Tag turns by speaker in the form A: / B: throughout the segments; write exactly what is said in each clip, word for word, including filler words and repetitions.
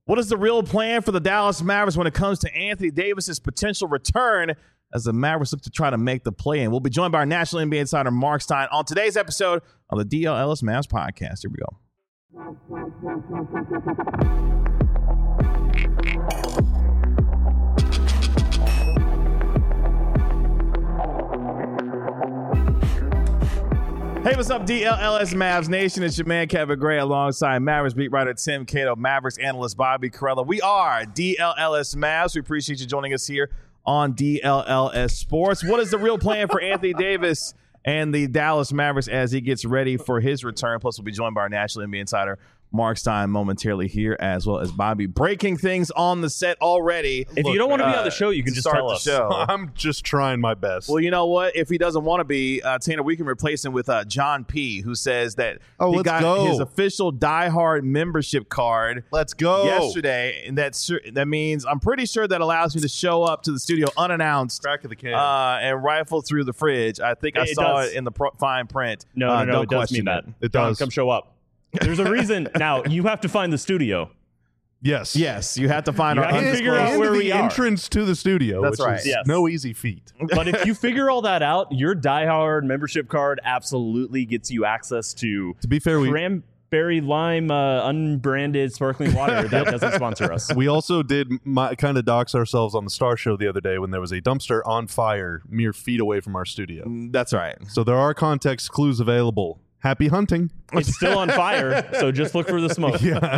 A: What is the real plan for the Dallas Mavericks when it comes to Anthony Davis's potential return as the Mavericks look to try to make the play-in? We'll be joined by our national N B A insider, Mark Stein, on today's episode of the D L Ellis Mavs podcast. Here we go. Hey, what's up, D L L S Mavs Nation? It's your man, Kevin Gray, alongside Mavericks beat writer Tim Cato, Mavericks analyst Bobby Carella. We are D L L S Mavs. We appreciate you joining us here on D L L S Sports. What is the real plan for Anthony Davis and the Dallas Mavericks as he gets ready for his return? Plus, we'll be joined by our national N B A insider, Mark Stein, momentarily here, as well as Bobby. Breaking things on the set already.
B: If Look, you don't want to be uh, on the show, you can just
A: start
B: tell
A: the
B: us.
A: Show.
C: I'm just trying my best.
A: Well, you know what? If he doesn't want to be, uh, Tanner, we can replace him with uh, John P., who says that
C: oh,
A: he
C: let's
A: got
C: go.
A: his official diehard membership card.
C: Let's go.
A: Yesterday, and that's that means I'm pretty sure that allows me to show up to the studio unannounced,
C: crack of the can,
A: uh, and rifle through the fridge. I think I
B: it
A: saw
B: does.
A: it in the pro- fine print.
B: No,
A: uh,
B: no, no,
A: don't
B: it does
A: question
B: mean that.
A: It,
C: it
B: John,
C: does.
B: Come show up. There's a reason. Now, you have to find the studio.
C: Yes.
A: Yes, you have to find
B: You
A: our
B: have to figure out
C: and
B: where
C: the
B: we are.
C: entrance to the studio.
A: That's
C: which
A: right.
C: Is
B: Yes.
C: No easy feat.
B: But if you figure all that out, your diehard membership card absolutely gets you access to
C: To be fair, we
B: cranberry lime uh, unbranded sparkling water that doesn't sponsor us.
C: we also did my, kind of dox ourselves on the Star Show the other day when there was a dumpster on fire mere feet away from our studio.
A: That's right.
C: So there are context clues available. Happy hunting.
B: It's still on fire, so just look for the smoke.
C: Yeah.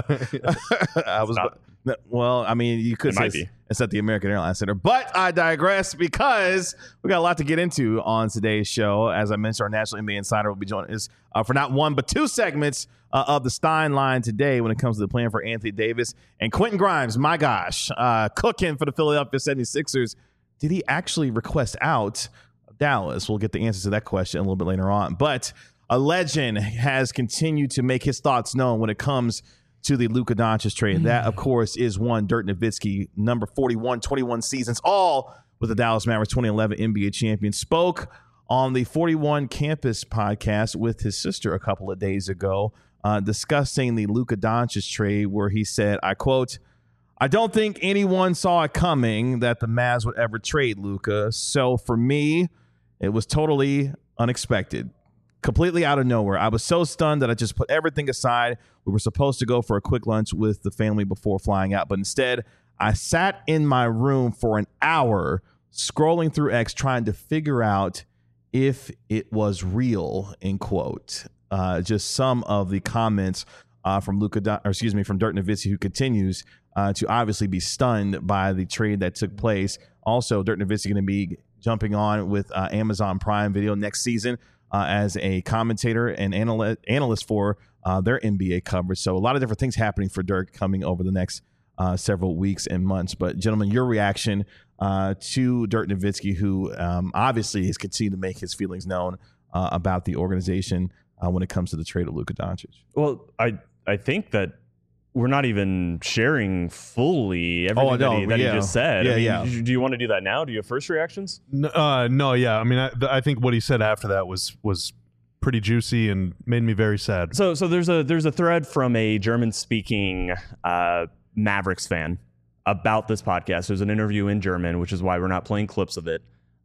A: I was
B: not.
A: well. I mean, you could
B: It
A: say
B: might
A: it's,
B: be.
A: it's at the American Airlines Center, but I digress because we got a lot to get into on today's show. As I mentioned, our national N B A insider will be joining us uh, for not one but two segments uh, of the Stein line today when it comes to the plan for Anthony Davis and Quentin Grimes. My gosh, uh, cooking for the Philadelphia seventy-sixers. Did he actually request out of Dallas? We'll get the answer to that question a little bit later on, but a legend has continued to make his thoughts known when it comes to the Luka Doncic trade. And that, of course, is one Dirk Nowitzki, number forty-one, twenty-one seasons, all with the Dallas Mavericks, twenty eleven N B A champion, spoke on the forty-one Campus podcast with his sister a couple of days ago, uh, discussing the Luka Doncic trade, where he said, I quote, "I don't think anyone saw it coming that the Mavs would ever trade Luka. So for me, it was totally unexpected. Completely out of nowhere. I was so stunned that I just put everything aside. We were supposed to go for a quick lunch with the family before flying out, but instead I sat in my room for an hour scrolling through X trying to figure out if it was real," end quote. Uh, just some of the comments uh, from Luka, Don- or excuse me, from Dirk Nowitzki, who continues uh, to obviously be stunned by the trade that took place. Also, Dirk Nowitzki going to be jumping on with uh, Amazon Prime Video next season Uh, as a commentator and analy- analyst for uh, their N B A coverage. So a lot of different things happening for Dirk coming over the next uh, several weeks and months. But gentlemen, your reaction uh, to Dirk Nowitzki, who um, obviously has continued to make his feelings known uh, about the organization uh, when it comes to the trade of Luka Doncic.
B: Well, I I think that we're not even sharing fully everything
A: Oh, no,
B: that, he, that
A: yeah.
B: he just said.
A: Yeah,
B: I mean,
A: yeah.
B: Do you want to do that now? Do you have first reactions?
C: No, uh, no, yeah. I mean, I, I think what he said after that was was pretty juicy and made me very sad.
B: So, so there's a there's a thread from a German-speaking uh, Mavericks fan about this podcast. There's an interview in German, which is why we're not playing clips of it.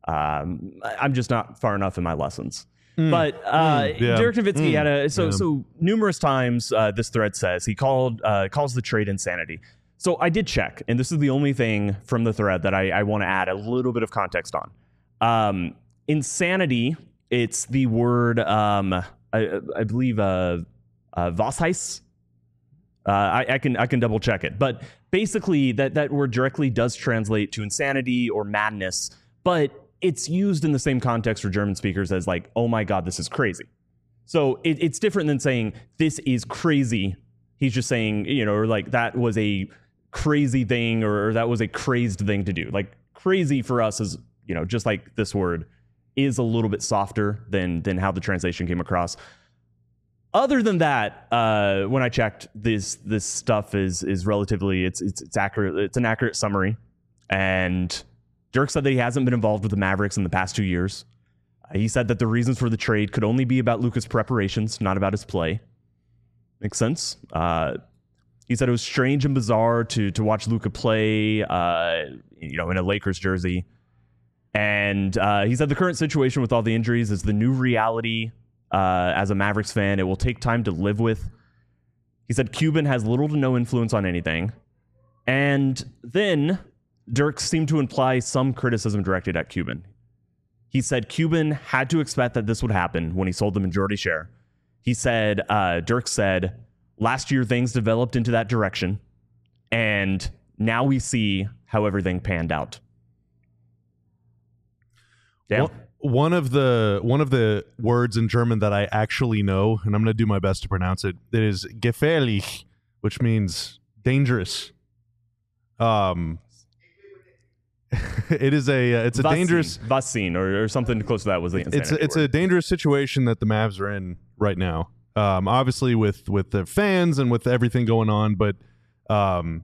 B: Um, I- I'm just not far enough in my lessons.
C: Mm.
B: But uh,
C: Mm, yeah.
B: Dirk Nowitzki
C: Mm,
B: had a so
C: yeah.
B: so numerous times. Uh, this thread says he called uh, calls the trade insanity. So I did check, and this is the only thing from the thread that I, I want to add a little bit of context on. Um, insanity. It's the word um, I, I believe uh, uh, Washeis. Uh, I, I can I can double check it, but basically that that word directly does translate to insanity or madness, but it's used in the same context for German speakers as like, oh my God, this is crazy. So it, it's different than saying this is crazy. He's just saying, you know, or like that was a crazy thing or, or that was a crazed thing to do. Like crazy for us is, you know, just like this word is a little bit softer than than how the translation came across. Other than that, uh, when I checked, this this stuff is is relatively it's it's it's accurate. It's an accurate summary, and Dirk said that he hasn't been involved with the Mavericks in the past two years. Uh, he said that the reasons for the trade could only be about Luka's preparations, not about his play. Makes sense. Uh, He said it was strange and bizarre to to watch Luka play, uh, you know, in a Lakers jersey. And uh, he said the current situation with all the injuries is the new reality. Uh, as a Mavericks fan, it will take time to live with. He said Cuban has little to no influence on anything. And then Dirk seemed to imply some criticism directed at Cuban. He said Cuban had to expect that this would happen when he sold the majority share. He said, uh, Dirk said, last year things developed into that direction, and now we see how everything panned out. Yeah.
C: Well, one of the one of the words in German that I actually know, and I'm going to do my best to pronounce it, it is gefährlich, which means dangerous. Um, it is a uh, it's a
B: Vaccine,
C: dangerous
B: vaccine or, or something close to that was the insanity
C: it's a, it's
B: word.
C: a dangerous situation that the Mavs are in right now. Um, obviously with with the fans and with everything going on, but um,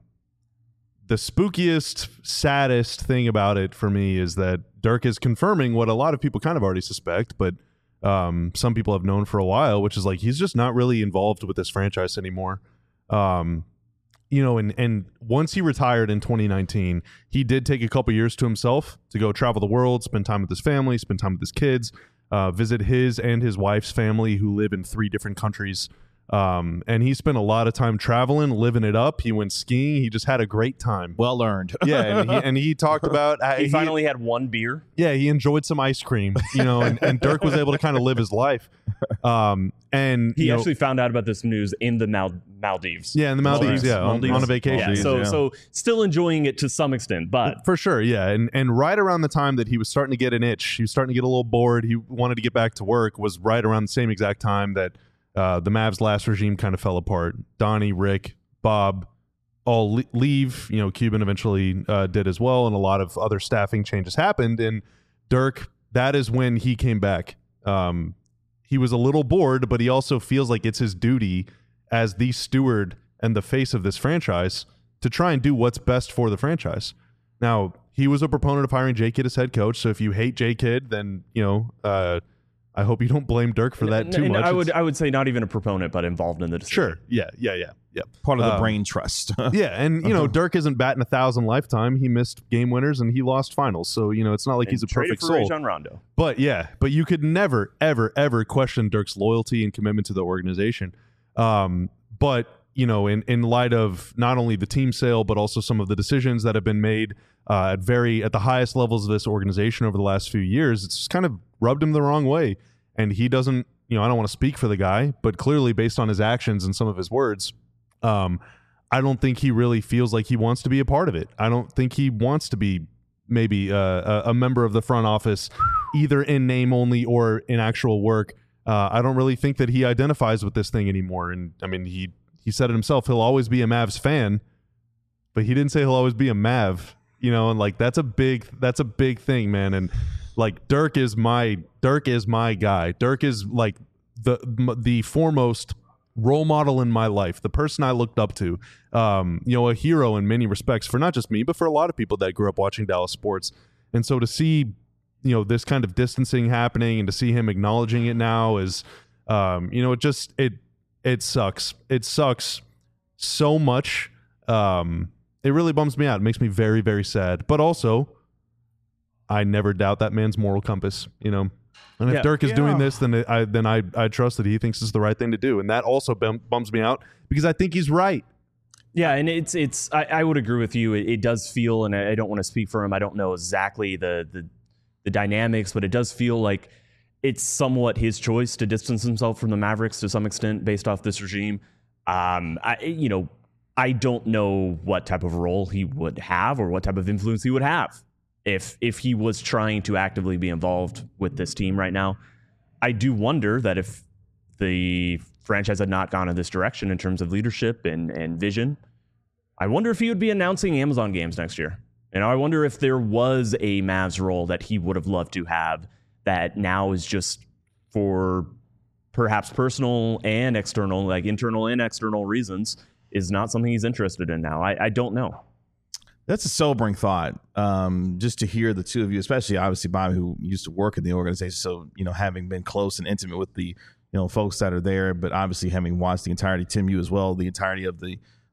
C: the spookiest, saddest thing about it for me is that Dirk is confirming what a lot of people kind of already suspect, but um, some people have known for a while, which is like he's just not really involved with this franchise anymore. Um, you know, and and once he retired in twenty nineteen, he did take a couple years to himself to go travel the world, spend time with his family, spend time with his kids, uh, visit his and his wife's family who live in three different countries. Um, and he spent a lot of time traveling, living it up. He went skiing. He just had a great time.
A: Well earned.
C: Yeah, and he, and he talked about uh,
B: he,
C: he
B: finally had one beer.
C: Yeah, he enjoyed some ice cream, you know, and, and Dirk was able to kind of live his life. Um, and
B: He
C: you know,
B: actually found out about this news in the Mal- Maldives.
C: yeah, in the Maldives, yeah, on,
B: Maldives.
C: on a vacation.
B: Yeah, so
A: yeah.
B: so still enjoying it to some extent, but
C: For sure, yeah, and and right around the time that he was starting to get an itch, he was starting to get a little bored. He wanted to get back to work. Was right around the same exact time that uh, the Mavs' last regime kind of fell apart. Donnie, Rick, Bob, all le- leave. You know, Cuban eventually uh, did as well, and a lot of other staffing changes happened. And Dirk, that is when he came back. Um, he was a little bored, but he also feels like it's his duty as the steward and the face of this franchise to try and do what's best for the franchise. Now, he was a proponent of hiring J Kidd as head coach, so if you hate J Kidd, then, you know, uh, I hope you don't blame Dirk for that too
B: and
C: much.
B: I would
C: It's-
B: I would say not even a proponent, but involved in the decision.
C: Sure. Yeah, yeah, yeah, yeah.
A: Part of the
C: Um,
A: brain trust.
C: Yeah, and, you know, Dirk isn't batting a thousand lifetime. He missed game winners and he lost finals, so, you know, it's not like
B: And
C: he's a
B: traded
C: perfect
B: for
C: soul.
B: Rajon Rondo.
C: But yeah, but you could never, ever, ever question Dirk's loyalty and commitment to the organization. Um, but, you know, in, in light of not only the team sale, but also some of the decisions that have been made uh, at very at the highest levels of this organization over the last few years, it's just kind of rubbed him the wrong way. And he doesn't, you know, I don't want to speak for the guy, but clearly based on his actions and some of his words, um, I don't think he really feels like he wants to be a part of it. I don't think he wants to be maybe uh, a, a member of the front office, either in name only or in actual work. Uh, I don't really think that he identifies with this thing anymore. And I mean, he he said it himself. He'll always be a Mavs fan, but he didn't say he'll always be a Mav. You know, and like that's a big that's a big thing, man. And like Dirk is my Dirk is my guy. Dirk is like the the foremost role model in my life, the person I looked up to, um, you know, a hero in many respects for not just me, but for a lot of people that grew up watching Dallas sports. And so to see, you know, this kind of distancing happening and to see him acknowledging it now is, um, you know, it just, it, it sucks. It sucks so much. Um, it really bums me out. It makes me very, very sad, but also I never doubt that man's moral compass, you know? And if
B: Yeah.
C: Dirk is
A: Yeah.
C: doing this, then I then I I trust that he thinks it's the right thing to do, and that also bum, bums me out because I think he's right.
B: Yeah, and it's it's I, I would agree with you. It, it does feel, and I, I don't want to speak for him. I don't know exactly the, the the dynamics, but it does feel like it's somewhat his choice to distance himself from the Mavericks to some extent based off this regime. Um, I you know I don't know what type of role he would have or what type of influence he would have if if he was trying to actively be involved with this team right now. I do wonder that if the franchise had not gone in this direction in terms of leadership and, and vision, I wonder if he would be announcing Amazon games next year. And I wonder if there was a Mavs role that he would have loved to have that now is just for perhaps personal and external, like internal and external reasons, is not something he's interested in now. I, I don't know.
A: That's a sobering thought. Um, just to hear the two of you, especially obviously Bobby, who used to work in the organization. So, you know, having been close and intimate with the, you know, folks that are there, but obviously having watched the entirety, Tim, you as well, the entirety of the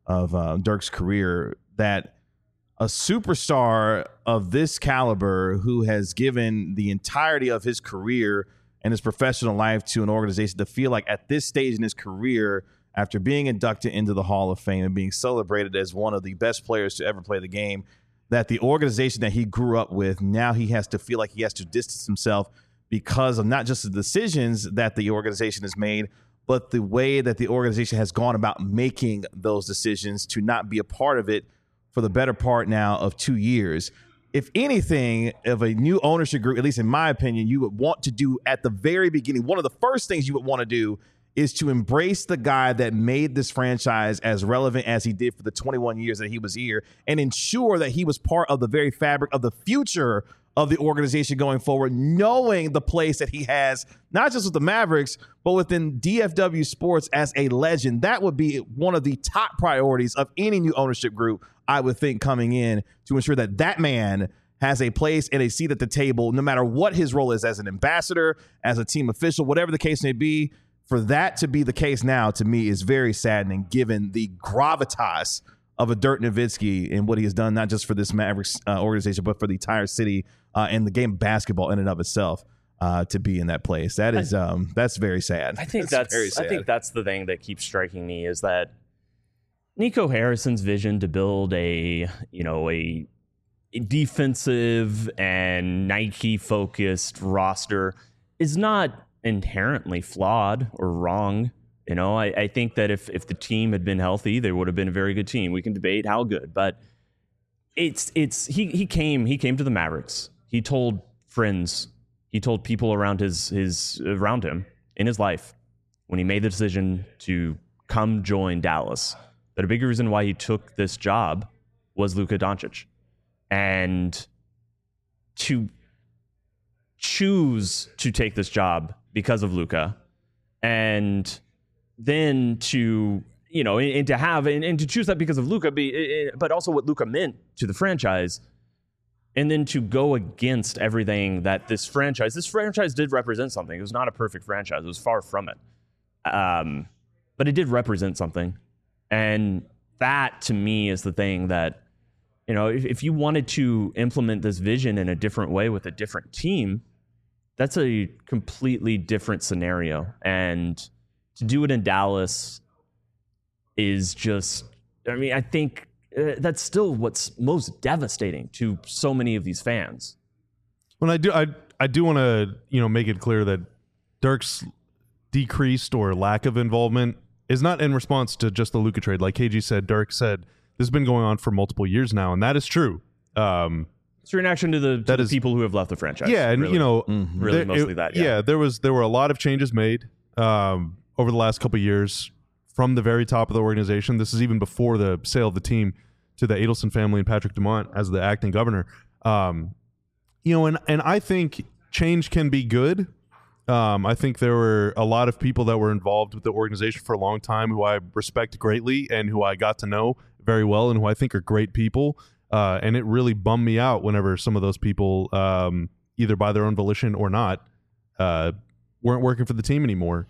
A: of uh, Dirk's career, that a superstar of this caliber who has given the entirety of his career and his professional life to an organization, to feel like at this stage in his career, after being inducted into the Hall of Fame and being celebrated as one of the best players to ever play the game, that the organization that he grew up with, now he has to feel like he has to distance himself because of not just the decisions that the organization has made, but the way that the organization has gone about making those decisions to not be a part of it for the better part now of two years. If anything, of a new ownership group, at least in my opinion, you would want to do at the very beginning, one of the first things you would want to do is to embrace the guy that made this franchise as relevant as he did for the twenty-one years that he was here, and ensure that he was part of the very fabric of the future of the organization going forward, knowing the place that he has, not just with the Mavericks, but within D F W Sports as a legend. That would be one of the top priorities of any new ownership group, I would think, coming in, to ensure that that man has a place and a seat at the table, no matter what his role is, as an ambassador, as a team official, whatever the case may be. For that to be the case now, to me, is very saddening, given the gravitas of a Dirk Nowitzki and what he has done, not just for this Mavericks uh, organization, but for the entire city uh, and the game of basketball in and of itself. Uh, to be in that place, that is um, that's very sad.
B: I think
A: that's,
B: that's
A: very sad.
B: I think that's the thing that keeps striking me, is that Nico Harrison's vision to build a you know a, a defensive and Nike focused roster is not inherently flawed or wrong. You know, I, I think that if if the team had been healthy, they would have been a very good team. We can debate how good, but it's it's he he came he came to the Mavericks. He told friends, he told people around his his around him in his life when he made the decision to come join Dallas, that a big reason why he took this job was Luka Doncic. And to choose to take this job because of Luka, and then to, you know, and, and to have, and, and to choose that because of Luka, be, but also what Luka meant to the franchise, and then to go against everything that this franchise, this franchise did represent something. It was not a perfect franchise. It was far from it. Um, but it did represent something. And that, to me, is the thing that, you know, if, if you wanted to implement this vision in a different way with a different team, that's a completely different scenario. And to do it in Dallas is just, I mean, I think uh, that's still what's most devastating to so many of these fans.
C: When I do, I I do want to, you know, make it clear that Dirk's decreased or lack of involvement is not in response to just the Luka trade. Like K G said, Dirk said, this has been going on for multiple years now, and that is true. Um,
B: It's a reaction to the, to
C: that
B: the
C: is,
B: people who have left the franchise.
C: Yeah, and
B: really.
C: you know,
B: mm-hmm. really
C: there,
B: mostly
C: it,
B: that. Yeah.
C: yeah, there was there were a lot of changes made um, over the last couple of years from the very top of the organization. This is even before the sale of the team to the Adelson family and Patrick Dumont as the acting governor. Um, you know, and and I think change can be good. Um, I think there were a lot of people that were involved with the organization for a long time who I respect greatly and who I got to know very well and who I think are great people. Uh, and it really bummed me out whenever some of those people, um, either by their own volition or not, uh, weren't working for the team anymore.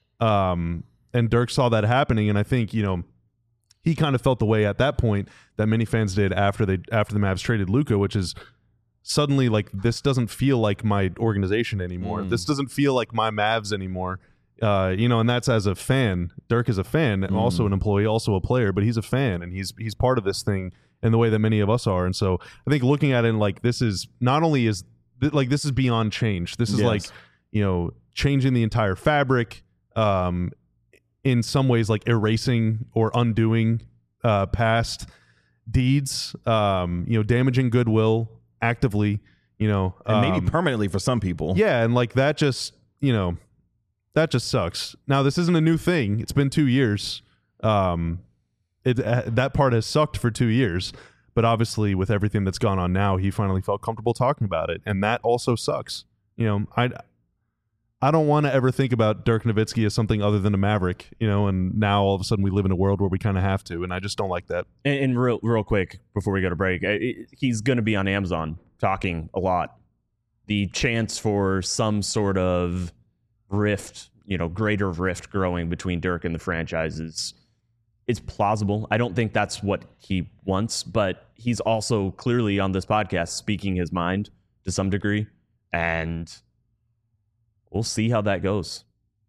C: Um, and Dirk saw that happening, and I think, you know, he kind of felt the way at that point that many fans did after they after the Mavs traded Luka, which is suddenly like, this doesn't feel like my organization anymore. Mm. This doesn't feel like my Mavs anymore. Uh, you know, and that's as a fan. Dirk is a fan, and mm. also an employee, also a player, but he's a fan, and he's he's part of this thing in the way that many of us are. And so I think looking at it like, this is not only is th- like this is beyond change. This is yes. like, you know, changing the entire fabric. Um, in some ways, like erasing or undoing uh, past deeds. Um, you know, damaging goodwill actively. You know,
A: and maybe
C: um,
A: permanently for some people.
C: Yeah, and like that just, you know, that just sucks. Now, this isn't a new thing. It's been two years. Um, it uh, that part has sucked for two years. But obviously, with everything that's gone on now, he finally felt comfortable talking about it, and that also sucks. You know, I I don't want to ever think about Dirk Nowitzki as something other than a Maverick. You know, and now all of a sudden we live in a world where we kind of have to, and I just don't like that.
B: And, and real real quick before we go to break, it, he's going to be on Amazon talking a lot. The chance for some sort of rift, you know, greater rift growing between Dirk and the franchise is it's plausible. I don't think that's what he wants, but he's also clearly on this podcast speaking his mind to some degree, and we'll see how that goes.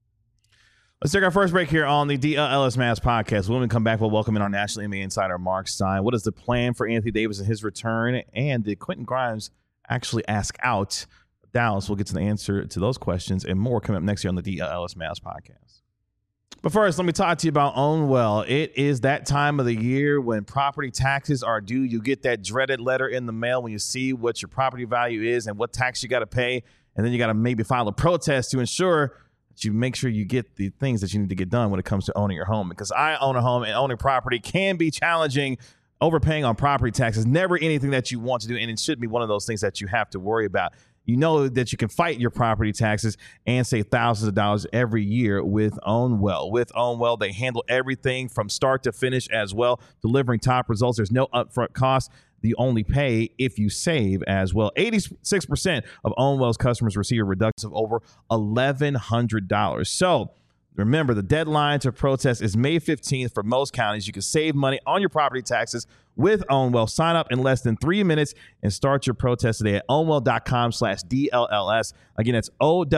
A: Let's take our first break here on the D L L S Mavs podcast. When we come back, we'll welcome in our National N B A insider, Mark Stein. What is the plan for Anthony Davis and his return? And did Quentin Grimes actually ask out Dallas? We'll get to the answer to those questions and more coming up next year on the D L L S Mavs podcast. But first, let me talk to you about OwnWell. It is that time of the year when property taxes are due. You get that dreaded letter in the mail when you see what your property value is and what tax you got to pay. And then you got to maybe file a protest to ensure that you make sure you get the things that you need to get done when it comes to owning your home. Because I own a home, and owning property can be challenging. Overpaying on property taxes, never anything that you want to do, and it should be one of those things that you have to worry about. You know that you can fight your property taxes and save thousands of dollars every year with OwnWell. With OwnWell, they handle everything from start to finish as well, delivering top results. There's no upfront cost. You only pay if you save as well. eighty-six percent of OwnWell's customers receive a reduction of over eleven hundred dollars. So remember, the deadline to protest is May fifteenth for most counties. You can save money on your property taxes with OwnWell. Sign up in less than three minutes and start your protest today at ownwell.com slash DLLS. Again, it's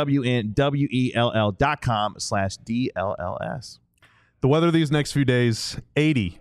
A: O-W-N-W-E-L-L dot com slash D-L-L-S.
C: The weather these next few days, eighty,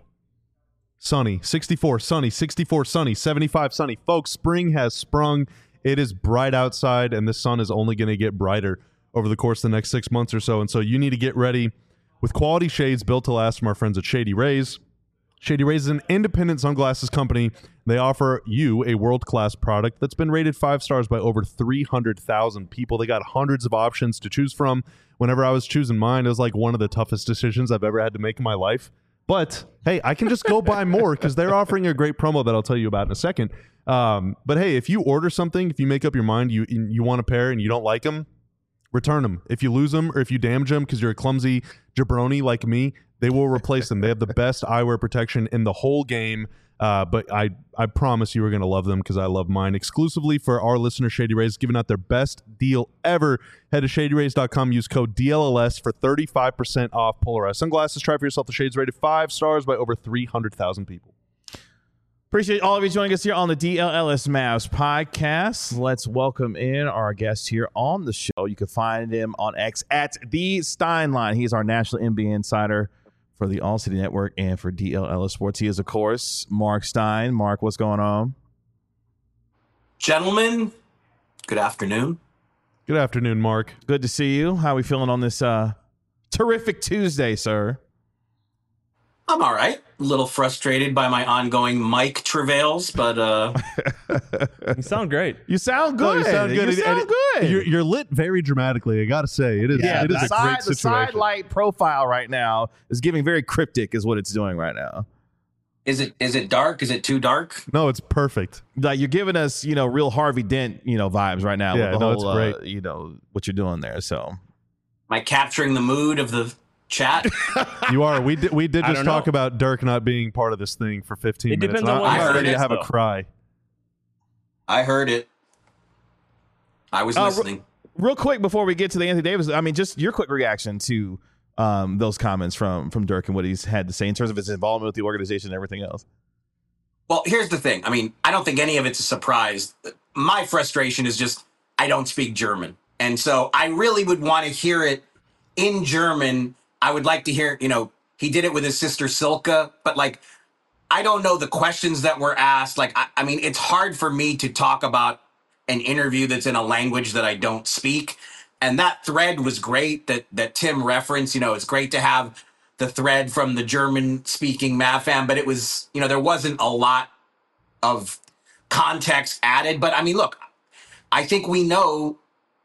C: sunny, sixty-four, sunny, sixty-four, sunny, seventy-five, sunny. Folks, spring has sprung. It is bright outside, and the sun is only going to get brighter over the course of the next six months or so. And so you need to get ready with quality shades built to last from our friends at Shady Rays. Shady Rays is an independent sunglasses company. They offer you a world-class product that's been rated five stars by over three hundred thousand people. They got hundreds of options to choose from. Whenever I was choosing mine, it was like one of the toughest decisions I've ever had to make in my life. But, hey, I can just go buy more because they're offering a great promo that I'll tell you about in a second. Um, but, hey, if you order something, if you make up your mind, you you want a pair and you don't like them, return them. If you lose them or if you damage them because you're a clumsy jabroni like me, they will replace them. They have the best eyewear protection in the whole game. Uh, but I, I promise you are going to love them because I love mine. Exclusively for our listener, Shady Rays, giving out their best deal ever. Head to shady rays dot com. Use code D L L S for thirty-five percent off polarized sunglasses. Try for yourself. The shades rated five stars by over three hundred thousand people.
A: Appreciate all of you joining us here on the D L L S Mavs podcast. Let's welcome in our guest here on the show. You can find him on X at The Steinline. He's our national N B A insider for the All City Network and for D L L S Sports. He is, of course, Mark Stein. Mark, what's going on?
D: Gentlemen, good afternoon.
C: Good afternoon, Mark.
A: Good to see you. How are we feeling on this uh, terrific Tuesday, sir?
D: I'm all right. A little frustrated by my ongoing mic travails, but uh
B: You sound great.
A: You sound good.
C: Oh, you sound good.
A: You sound
C: And-
A: good.
C: You're, you're lit very dramatically. I got to say, it is,
A: yeah,
C: it is
A: the
C: a
A: side,
C: great
A: the
C: situation.
A: side light profile right now is giving very cryptic is what it's doing right now.
D: is it is it dark? Is it too dark?
C: No, it's perfect.
A: Like you're giving us, you know, real Harvey Dent, you know, vibes right now
C: Yeah,
A: with the
C: no,
A: whole,
C: it's great.
A: Uh, you know, what you're doing there. So
D: Am I capturing the mood of the chat?
C: You are. We did. We did
B: I
C: just
B: don't
C: talk
B: know.
C: about Dirk not being part of this thing for fifteen
B: It
C: minutes.
B: depends
C: and
B: on
C: I-
B: what
C: I'm
D: part
C: ready
D: it
C: to
D: is,
C: have a
B: though.
C: cry.
D: I heard it. I was
A: Uh,
D: listening.
A: real quick before we get to the Anthony Davis, I mean, just your quick reaction to um, those comments from from Dirk and what he's had to say in terms of his involvement with the organization and everything else.
D: Well, here's the thing. I mean, I don't think any of it's a surprise. My frustration is just I don't speak German. And so I really would want to hear it in German. I would like to hear, you know, he did it with his sister Silke, but like, I don't know the questions that were asked. Like, I, I mean, it's hard for me to talk about an interview that's in a language that I don't speak. And that thread was great that that Tim referenced. You know, it's great to have the thread from the German speaking MavFam, but it was, you know, there wasn't a lot of context added. But I mean, look, I think we know,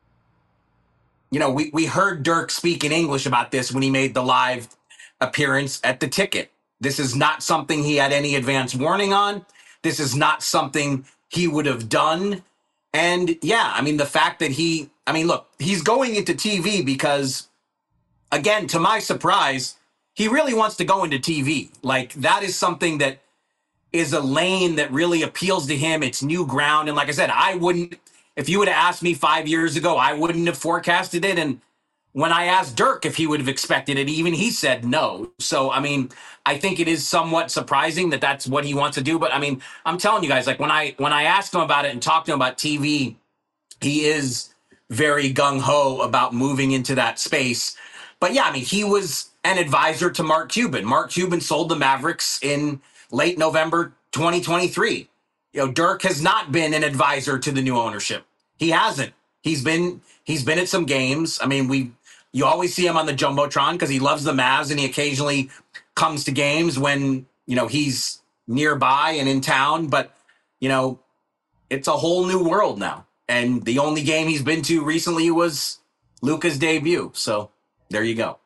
D: you know, we, we heard Dirk speak in English about this when he made the live appearance at the Ticket. This is not something he had any advance warning on. This is not something he would have done. And yeah, I mean, the fact that he, I mean, look, he's going into T V because, again, to my surprise, he really wants to go into T V. Like, that is something that is a lane that really appeals to him. It's new ground. And like I said, I wouldn't, if you would have asked me five years ago, I wouldn't have forecasted it. And when I asked Dirk if he would have expected it, even he said no. So, I mean, I think it is somewhat surprising that that's what he wants to do. But I mean, I'm telling you guys, like when I when I asked him about it and talked to him about T V, he is very gung-ho about moving into that space. But yeah, I mean, he was an advisor to Mark Cuban. Mark Cuban sold the Mavericks in late November twenty twenty-three. You know, Dirk has not been an advisor to the new ownership. He hasn't. He's been he's been at some games. I mean, we you always see him on the Jumbotron because he loves the Mavs, and he occasionally comes to games when, you know, he's nearby and in town. But, you know, it's a whole new world now. And the only game he's been to recently was Luka's debut. So there you go.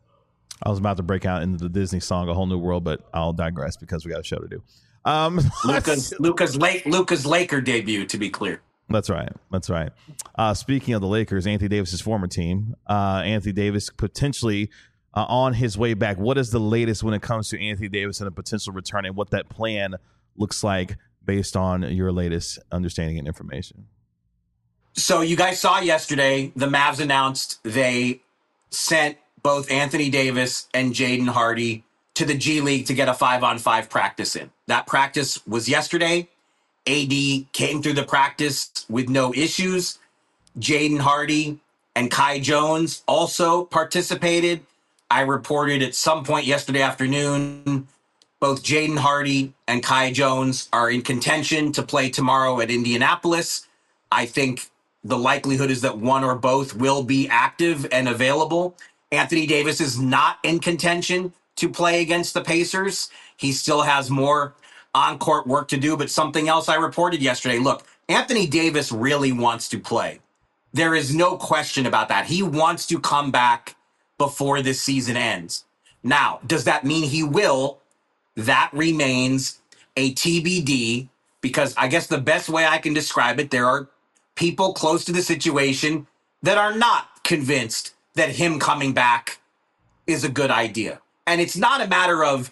A: I was about to break out into the Disney song "A Whole New World," but I'll digress because we got a show to do. Um,
D: Luka's Luka's late Luka's Laker debut, to be clear.
A: That's right. That's right. Uh, speaking of the Lakers, Anthony Davis's former team, uh, Anthony Davis potentially uh, on his way back. What is the latest when it comes to Anthony Davis and a potential return, and what that plan looks like based on your latest understanding and information?
D: So you guys saw yesterday, the Mavs announced they sent both Anthony Davis and Jaden Hardy to the G League to get a five-on-five practice in. That practice was yesterday. A D came through the practice with no issues. Jaden Hardy and Kai Jones also participated. I reported at some point yesterday afternoon, both Jaden Hardy and Kai Jones are in contention to play tomorrow at Indianapolis. I think the likelihood is that one or both will be active and available. Anthony Davis is not in contention to play against the Pacers. He still has more on-court work to do, but something else I reported yesterday. Look, Anthony Davis really wants to play. There is no question about that. He wants to come back before this season ends. Now, does that mean he will? That remains a T B D, because I guess the best way I can describe it, there are people close to the situation that are not convinced that him coming back is a good idea. And it's not a matter of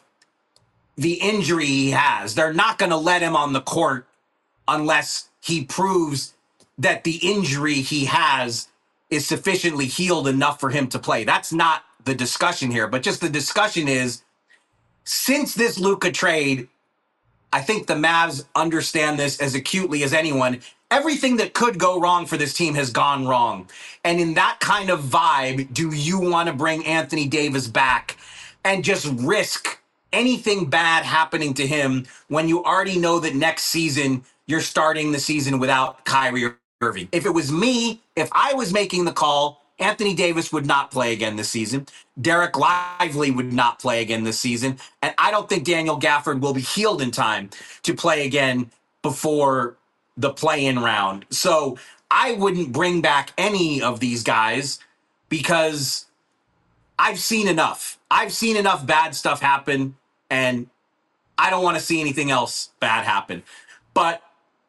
D: the injury he has. They're not going to let him on the court unless he proves that the injury he has is sufficiently healed enough for him to play. That's not the discussion here, but just the discussion is, since this Luka trade, I think the Mavs understand this as acutely as anyone. Everything that could go wrong for this team has gone wrong. And in that kind of vibe, do you want to bring Anthony Davis back and just risk anything bad happening to him when you already know that next season you're starting the season without Kyrie Irving? If it was me, if I was making the call, Anthony Davis would not play again this season. Derek Lively would not play again this season. And I don't think Daniel Gafford will be healed in time to play again before the play-in round. So I wouldn't bring back any of these guys because I've seen enough. I've seen enough bad stuff happen, and I don't want to see anything else bad happen. But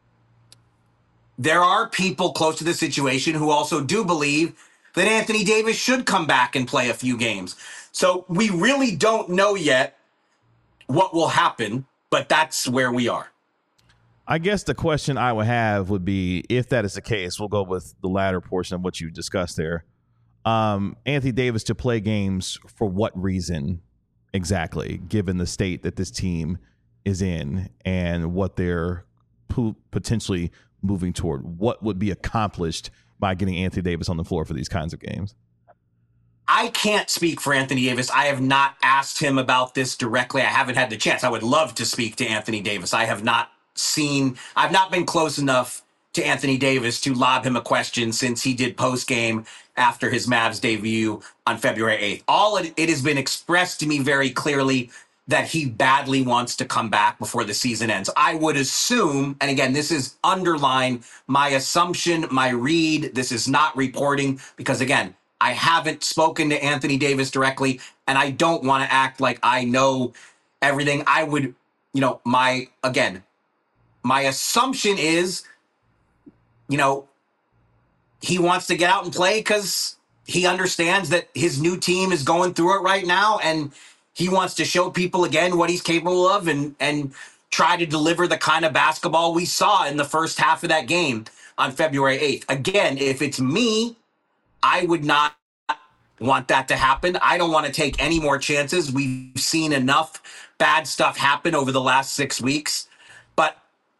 D: there are people close to the situation who also do believe that Anthony Davis should come back and play a few games. So we really don't know yet what will happen, but that's where we are.
A: I guess the question I would have would be, if that is the case, we'll go with the latter portion of what you discussed there. Um, Anthony Davis to play games for what reason exactly, given the state that this team is in and what they're po- potentially moving toward? What would be accomplished by getting Anthony Davis on the floor for these kinds of games?
D: I can't speak for Anthony Davis. I have not asked him about this directly. I haven't had the chance. I would love to speak to Anthony Davis. I have not seen, I've not been close enough to Anthony Davis to lob him a question since he did post-game after his Mavs debut on February eighth. All it, it has been expressed to me very clearly that he badly wants to come back before the season ends. I would assume, and again, this is underline my assumption, my read, this is not reporting, because again, I haven't spoken to Anthony Davis directly, and I don't want to act like I know everything. I would, you know, my, again, my assumption is, you know, he wants to get out and play because he understands that his new team is going through it right now, and he wants to show people again what he's capable of and, and try to deliver the kind of basketball we saw in the first half of that game on February eighth. Again, if it's me, I would not want that to happen. I don't want to take any more chances. We've seen enough bad stuff happen over the last six weeks. But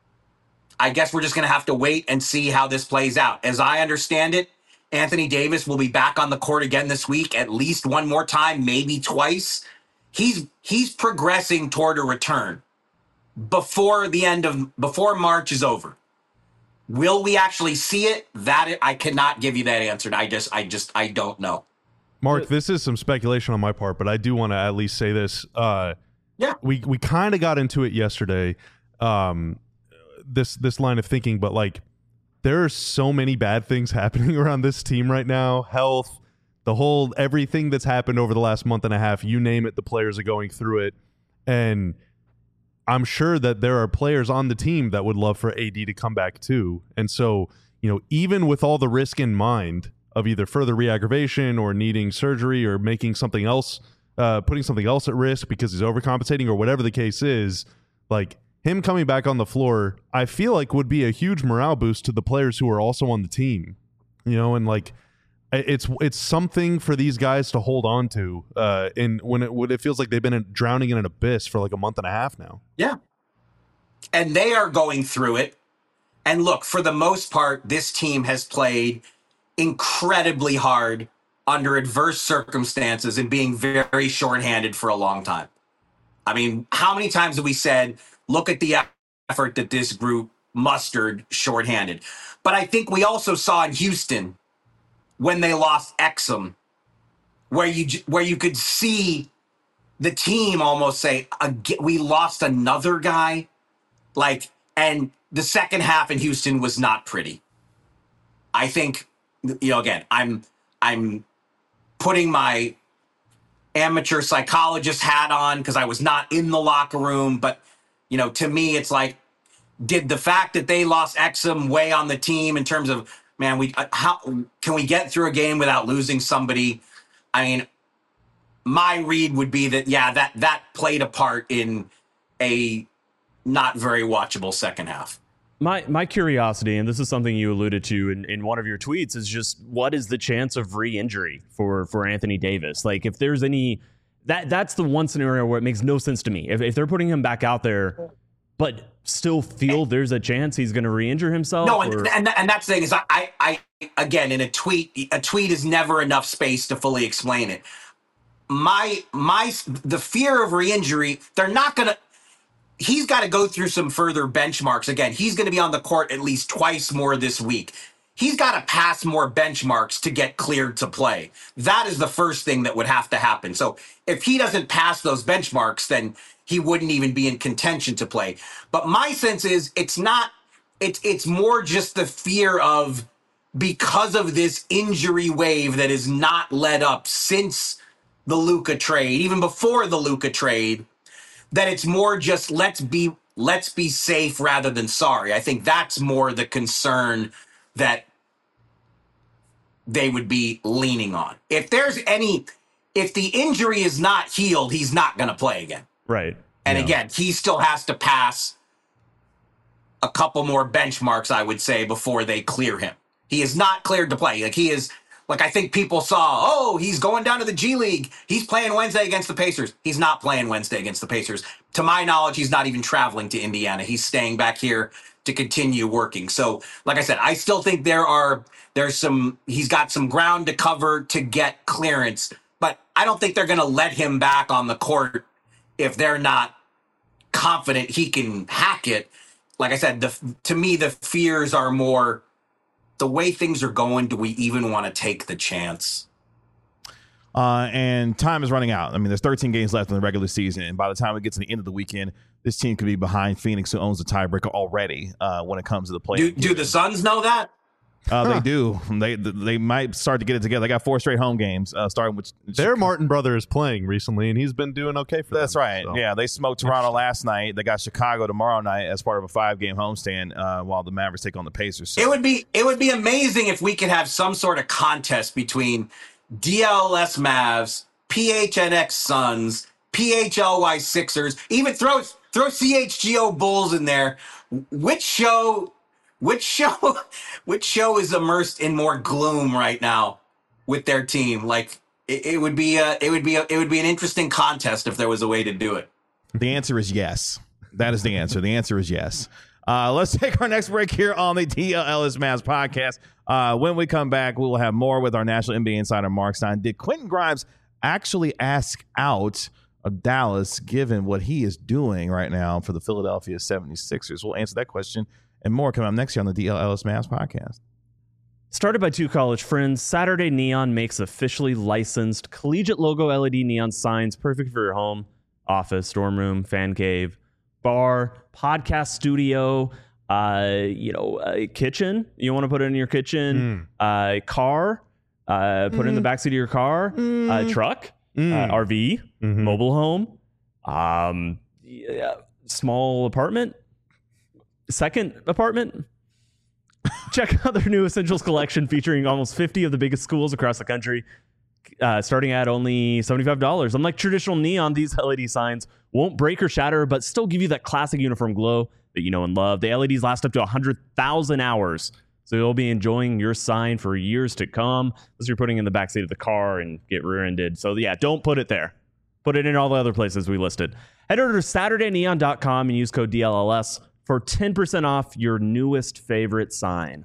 D: I guess we're just going to have to wait and see how this plays out. As I understand it, Anthony Davis will be back on the court again this week, at least one more time, maybe twice. He's he's progressing toward a return before the end of before March is over. Will we actually see it? That I cannot give you that answer. I just I just I don't know.
C: Mark, this is some speculation on my part, but I do want to at least say this. Uh,
D: yeah,
C: we we kind of got into it yesterday. Um, this this line of thinking, but like, there are so many bad things happening around this team right now. Health, the whole everything that's happened over the last month and a half. You name it, the players are going through it, and I'm sure that there are players on the team that would love for A D to come back too. And so, you know, even with all the risk in mind of either further re-aggravation or needing surgery or making something else, uh, putting something else at risk because he's overcompensating or whatever the case is, like him coming back on the floor, I feel like would be a huge morale boost to the players who are also on the team, you know, and like it's it's something for these guys to hold on to. Uh, and when it when it feels like they've been drowning in an abyss for like a month and a half now.
D: Yeah, and they are going through it. And look, for the most part, this team has played incredibly hard under adverse circumstances and being very shorthanded for a long time. I mean, how many times have we said, look at the effort that this group mustered shorthanded? But I think we also saw in Houston when they lost Exum, where you where you could see the team almost say, we lost another guy. Like, and the second half in Houston was not pretty. I think, you know, again, I'm I'm putting my amateur psychologist hat on because I was not in the locker room. But, you know, to me, it's like, did the fact that they lost Exum weigh on the team in terms of, man, we how can we get through a game without losing somebody? I mean, my read would be that, yeah, that that played a part in a not very watchable second half.
B: My my curiosity, and this is something you alluded to in, in one of your tweets, is just what is the chance of re-injury for, for Anthony Davis? Like, if there's any, that that's the one scenario where it makes no sense to me. If, if they're putting him back out there, but still feel there's a chance he's going to re-injure himself.
D: No, and,
B: or?
D: and and that's the thing is, I, I I again in a tweet, a tweet is never enough space to fully explain it. My my the fear of re-injury, they're not going to. He's got to go through some further benchmarks. Again, he's going to be on the court at least twice more this week. He's got to pass more benchmarks to get cleared to play. That is the first thing that would have to happen. So if he doesn't pass those benchmarks, then he wouldn't even be in contention to play. But my sense is it's not, it's, it's more just the fear of, because of this injury wave that is not let up since the Luka trade, even before the Luka trade, that it's more just let's be let's be safe rather than sorry. I think that's more the concern that they would be leaning on. If there's any, if the injury is not healed, he's not going to play again.
B: Right.
D: And
B: yeah.
D: again, he still has to pass a couple more benchmarks, I would say, before they clear him. He is not cleared to play. Like he is. Like, I think people saw, oh, he's going down to the G League. He's playing Wednesday against the Pacers. He's not playing Wednesday against the Pacers. To my knowledge, he's not even traveling to Indiana. He's staying back here to continue working. So, like I said, I still think there are, there's some, he's got some ground to cover to get clearance. But I don't think they're going to let him back on the court if they're not confident he can hack it. Like I said, the, to me, the fears are more, the way things are going, do we even want to take the chance?
A: Uh, and time is running out. I mean, there's thirteen games left in the regular season. And by the time we get to the end of the weekend, this team could be behind Phoenix, who owns the tiebreaker already uh, when it comes to the play.
D: Do, do the Suns know that?
A: Uh, huh. They do. They they might start to get it together. They got four straight home games, uh, starting with
C: their Martin brother is playing recently, and he's been doing okay for
A: That's
C: them.
A: right.
C: So.
A: Yeah, they smoked Toronto last night. They got Chicago tomorrow night as part of a five-game homestand uh, while the Mavericks take on the Pacers. So.
D: It would be it would be amazing if we could have some sort of contest between D L S Mavs, P H N X Suns, P H L Y Sixers, even throw throw C H G O Bulls in there. Which show? Which show? Which show is immersed in more gloom right now with their team? Like, it, it would be a, it would be a, it would be an interesting contest if there was a way to do it.
A: The answer is yes. That is the answer. The answer is yes. Uh, let's take our next break here on the D L Ellis Mavs podcast. Uh, when we come back, we will have more with our National N B A insider, Mark Stein. Did Quentin Grimes actually ask out of Dallas, given what he is doing right now for the Philadelphia seventy-sixers? We'll answer that question and more coming up next year on the D L Ellis Mavs podcast.
B: Started by two college friends, Saturday Neon makes officially licensed collegiate logo L E D neon signs, perfect for your home, office, dorm room, fan cave, bar, podcast studio, uh, you know, a kitchen. You want to put it in your kitchen, mm. uh, car, uh, put mm. it in the backseat of your car, mm. uh, truck, mm. uh, R V, mm-hmm. mobile home, um, yeah, small apartment, second apartment. Check out their new Essentials collection featuring almost fifty of the biggest schools across the country, uh, starting at only seventy-five dollars. Unlike traditional neon, these L E D signs won't break or shatter, but still give you that classic uniform glow that you know and love. The L E Ds last up to one hundred thousand hours, so you'll be enjoying your sign for years to come, unless you're putting it in the backseat of the car and get rear-ended. So yeah, don't put it there. Put it in all the other places we listed. Head over to Saturday Neon dot com and use code D L L S for ten percent off your newest favorite sign.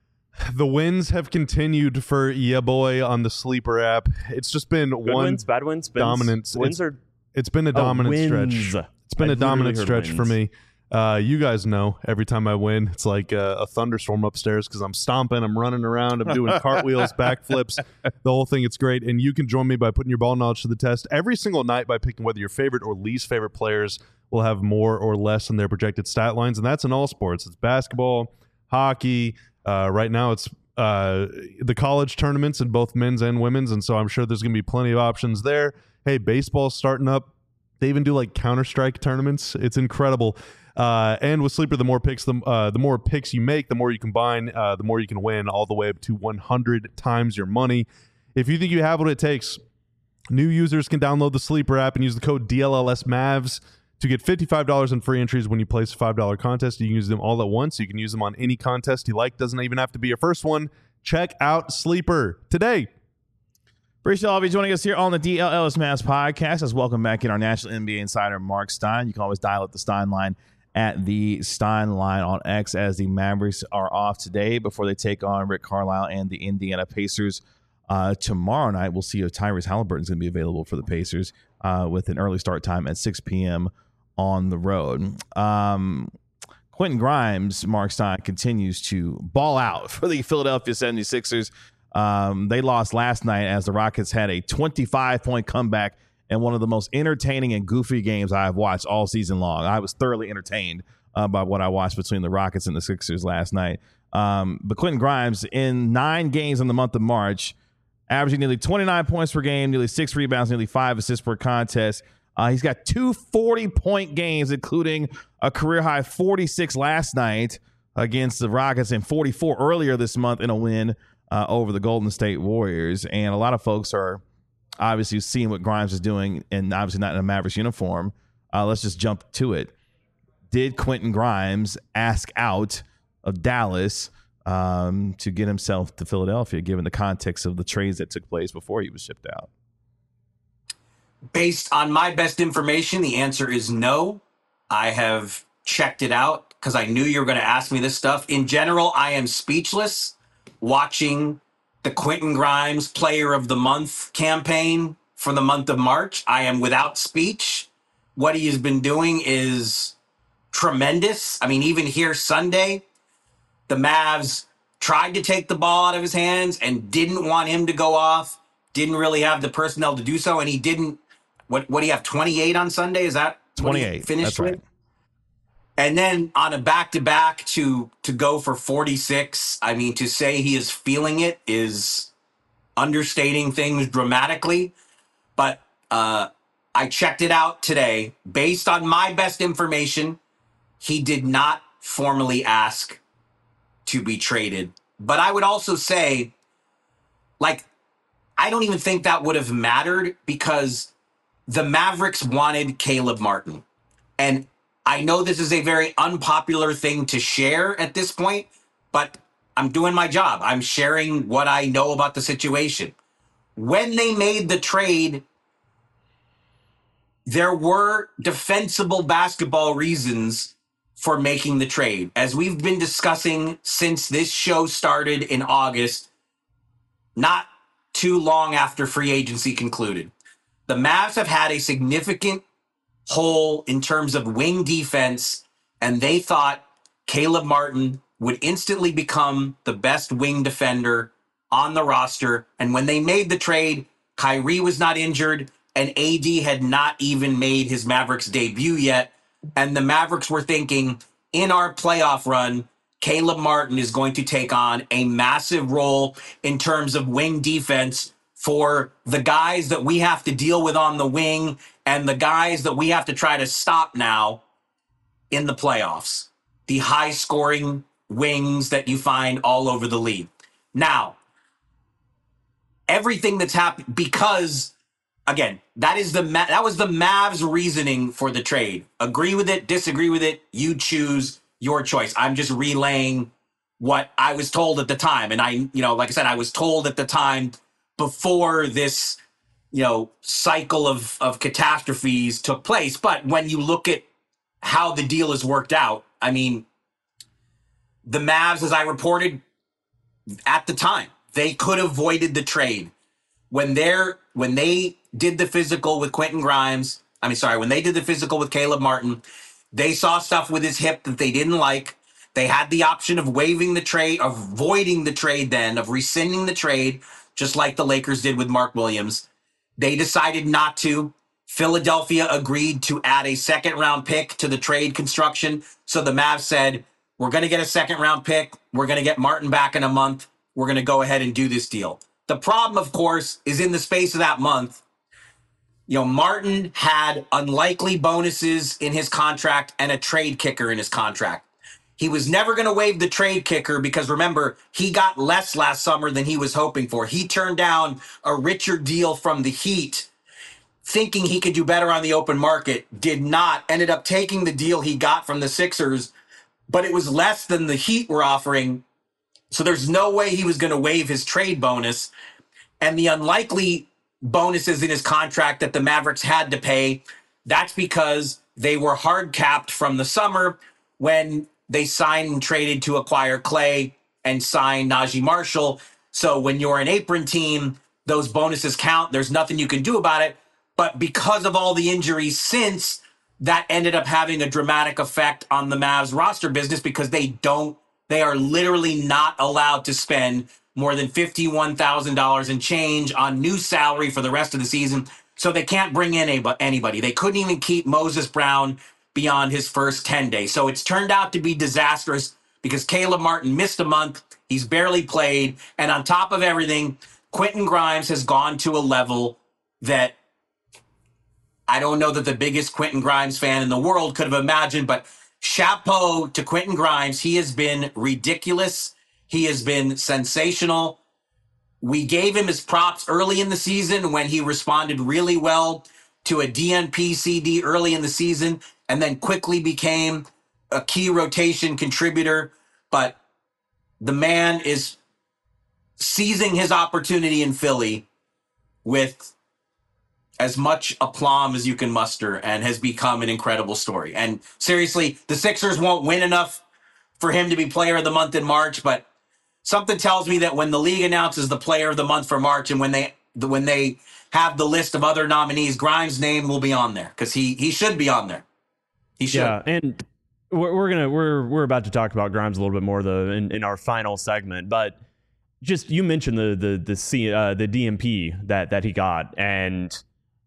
C: The wins have continued for yeah boy on the Sleeper app. It's just been
B: Good
C: one
B: wins, bad wins,
C: dominance.
B: Wins
C: it's,
B: are
C: it's been a dominant
B: oh,
C: stretch. It's been
B: I
C: a dominant stretch
B: wins.
C: for me. Uh, you guys know every time I win, it's like a, a thunderstorm upstairs because I'm stomping, I'm running around, I'm doing cartwheels, backflips, the whole thing. It's great. And you can join me by putting your ball knowledge to the test every single night by picking whether your favorite or least favorite players will have more or less in their projected stat lines. And that's in all sports. It's basketball, hockey. Uh, right now it's uh, the college tournaments in both men's and women's. And so I'm sure there's going to be plenty of options there. Hey, baseball's starting up. They even do like Counter-Strike tournaments. It's incredible. Uh, and with Sleeper, the more picks, the, uh, the more picks you make, the more you combine, uh, the more you can win, all the way up to one hundred times your money. If you think you have what it takes, new users can download the Sleeper app and use the code D L L S Mavs to get fifty-five dollars in free entries when you place a five dollar contest. You can use them all at once. You can use them on any contest you like. Doesn't even have to be your first one. Check out Sleeper today.
A: Appreciate all of you joining us here on the D L Ellis Mavs podcast. Let's welcome back in our National N B A insider, Mark Stein. You can always dial up the Stein line at the Stein line on X as the Mavericks are off today before they take on Rick Carlisle and the Indiana Pacers uh, tomorrow night. We'll see if Tyrese Halliburton is going to be available for the Pacers uh, with an early start time at six p.m. on the road. Um, Quentin Grimes, Mark Stein, continues to ball out for the Philadelphia seventy-sixers. Um, they lost last night as the Rockets had a twenty-five point comeback and one of the most entertaining and goofy games I've watched all season long. I was thoroughly entertained uh, by what I watched between the Rockets and the Sixers last night. Um, but Quentin Grimes, in nine games in the month of March, averaging nearly twenty-nine points per game, nearly six rebounds, nearly five assists per contest. Uh, he's got two forty-point games, including a career-high forty-six last night against the Rockets and forty-four earlier this month in a win uh, over the Golden State Warriors. And a lot of folks are obviously seeing what Grimes is doing, and obviously not in a Mavericks uniform. Uh, let's just jump to it. Did Quentin Grimes ask out of Dallas um, to get himself to Philadelphia, given the context of the trades that took place before he was shipped out?
D: Based on my best information, the answer is no. I have checked it out because I knew you were going to ask me this stuff. In general, I am speechless watching the Quentin Grimes Player of the Month campaign for the month of March. I am without speech. What he has been doing is tremendous. I mean, even here Sunday, the Mavs tried to take the ball out of his hands and didn't want him to go off, didn't really have the personnel to do so, and he didn't. What what do you have, twenty-eight on Sunday? Is that
A: twenty-eight?
D: Finished
A: That's
D: with?
A: right.
D: And then on a back-to-back to to go for forty-six, I mean, to say he is feeling it is understating things dramatically. But uh, I checked it out today. Based on my best information, he did not formally ask to be traded. But I would also say, like, I don't even think that would have mattered because the Mavericks wanted Caleb Martin. And I know this is a very unpopular thing to share at this point, but I'm doing my job. I'm sharing what I know about the situation. when they made the trade, there were defensible basketball reasons for making the trade. As we've been discussing since this show started in August, not too long after free agency concluded, the Mavs have had a significant hole in terms of wing defense, and they thought Caleb Martin would instantly become the best wing defender on the roster. And when they made the trade, Kyrie was not injured, and A D had not even made his Mavericks debut yet. And the Mavericks were thinking, in our playoff run, Caleb Martin is going to take on a massive role in terms of wing defense for the guys that we have to deal with on the wing and the guys that we have to try to stop now in the playoffs. The high-scoring wings that you find all over the league. Now, everything that's happened, because again, that is the that was the Mavs' reasoning for the trade. Agree with it, disagree with it, you choose your choice. I'm just relaying what I was told at the time. And I, you know, like I said, I was told at the time before this, you know, cycle of, of catastrophes took place. But when you look at how the deal has worked out, I mean, the Mavs, as I reported at the time, they could have avoided the trade. When they're when they did the physical with Quentin Grimes, I mean, sorry, when they did the physical with Caleb Martin, they saw stuff with his hip that they didn't like. They had the option of waiving the trade, of voiding the trade then, of rescinding the trade, just like the Lakers did with Mark Williams. They decided not to. Philadelphia agreed to add a second round pick to the trade construction. So the Mavs said, we're going to get a second round pick. We're going to get Martin back in a month. We're going to go ahead and do this deal. The problem, of course, is in the space of that month, you know, Martin had unlikely bonuses in his contract and a trade kicker in his contract. He was never going to waive the trade kicker because, remember, he got less last summer than he was hoping for. He turned down a richer deal from the Heat, thinking he could do better on the open market, did not, ended up taking the deal he got from the Sixers, but it was less than the Heat were offering. So there's no way he was going to waive his trade bonus. And the unlikely bonuses in his contract that the Mavericks had to pay, that's because they were hard capped from the summer when they signed and traded to acquire Clay and signed Najee Marshall. So when you're an apron team, those bonuses count. There's nothing you can do about it. But because of all the injuries since, that ended up having a dramatic effect on the Mavs roster business because they don't, they are literally not allowed to spend more than fifty-one thousand dollars in change on new salary for the rest of the season. So they can't bring in anybody. They couldn't even keep Moses Brown beyond his first ten days. So it's turned out to be disastrous because Caleb Martin missed a month. He's barely played. And on top of everything, Quentin Grimes has gone to a level that I don't know that the biggest Quentin Grimes fan in the world could have imagined, but chapeau to Quentin Grimes. He has been ridiculous. He has been sensational. We gave him his props early in the season when he responded really well to a D N P C D early in the season and then quickly became a key rotation contributor. But the man is seizing his opportunity in Philly with as much aplomb as you can muster and has become an incredible story. And seriously, the Sixers won't win enough for him to be player of the month in March, but something tells me that when the league announces the player of the month for March and when they when they have the list of other nominees, Grimes' name will be on there because he he should be on there. He should.
B: Yeah, and we're, we're gonna we're we're about to talk about Grimes a little bit more though in, in our final segment, but just you mentioned the the the C, uh, the D M P that that he got, and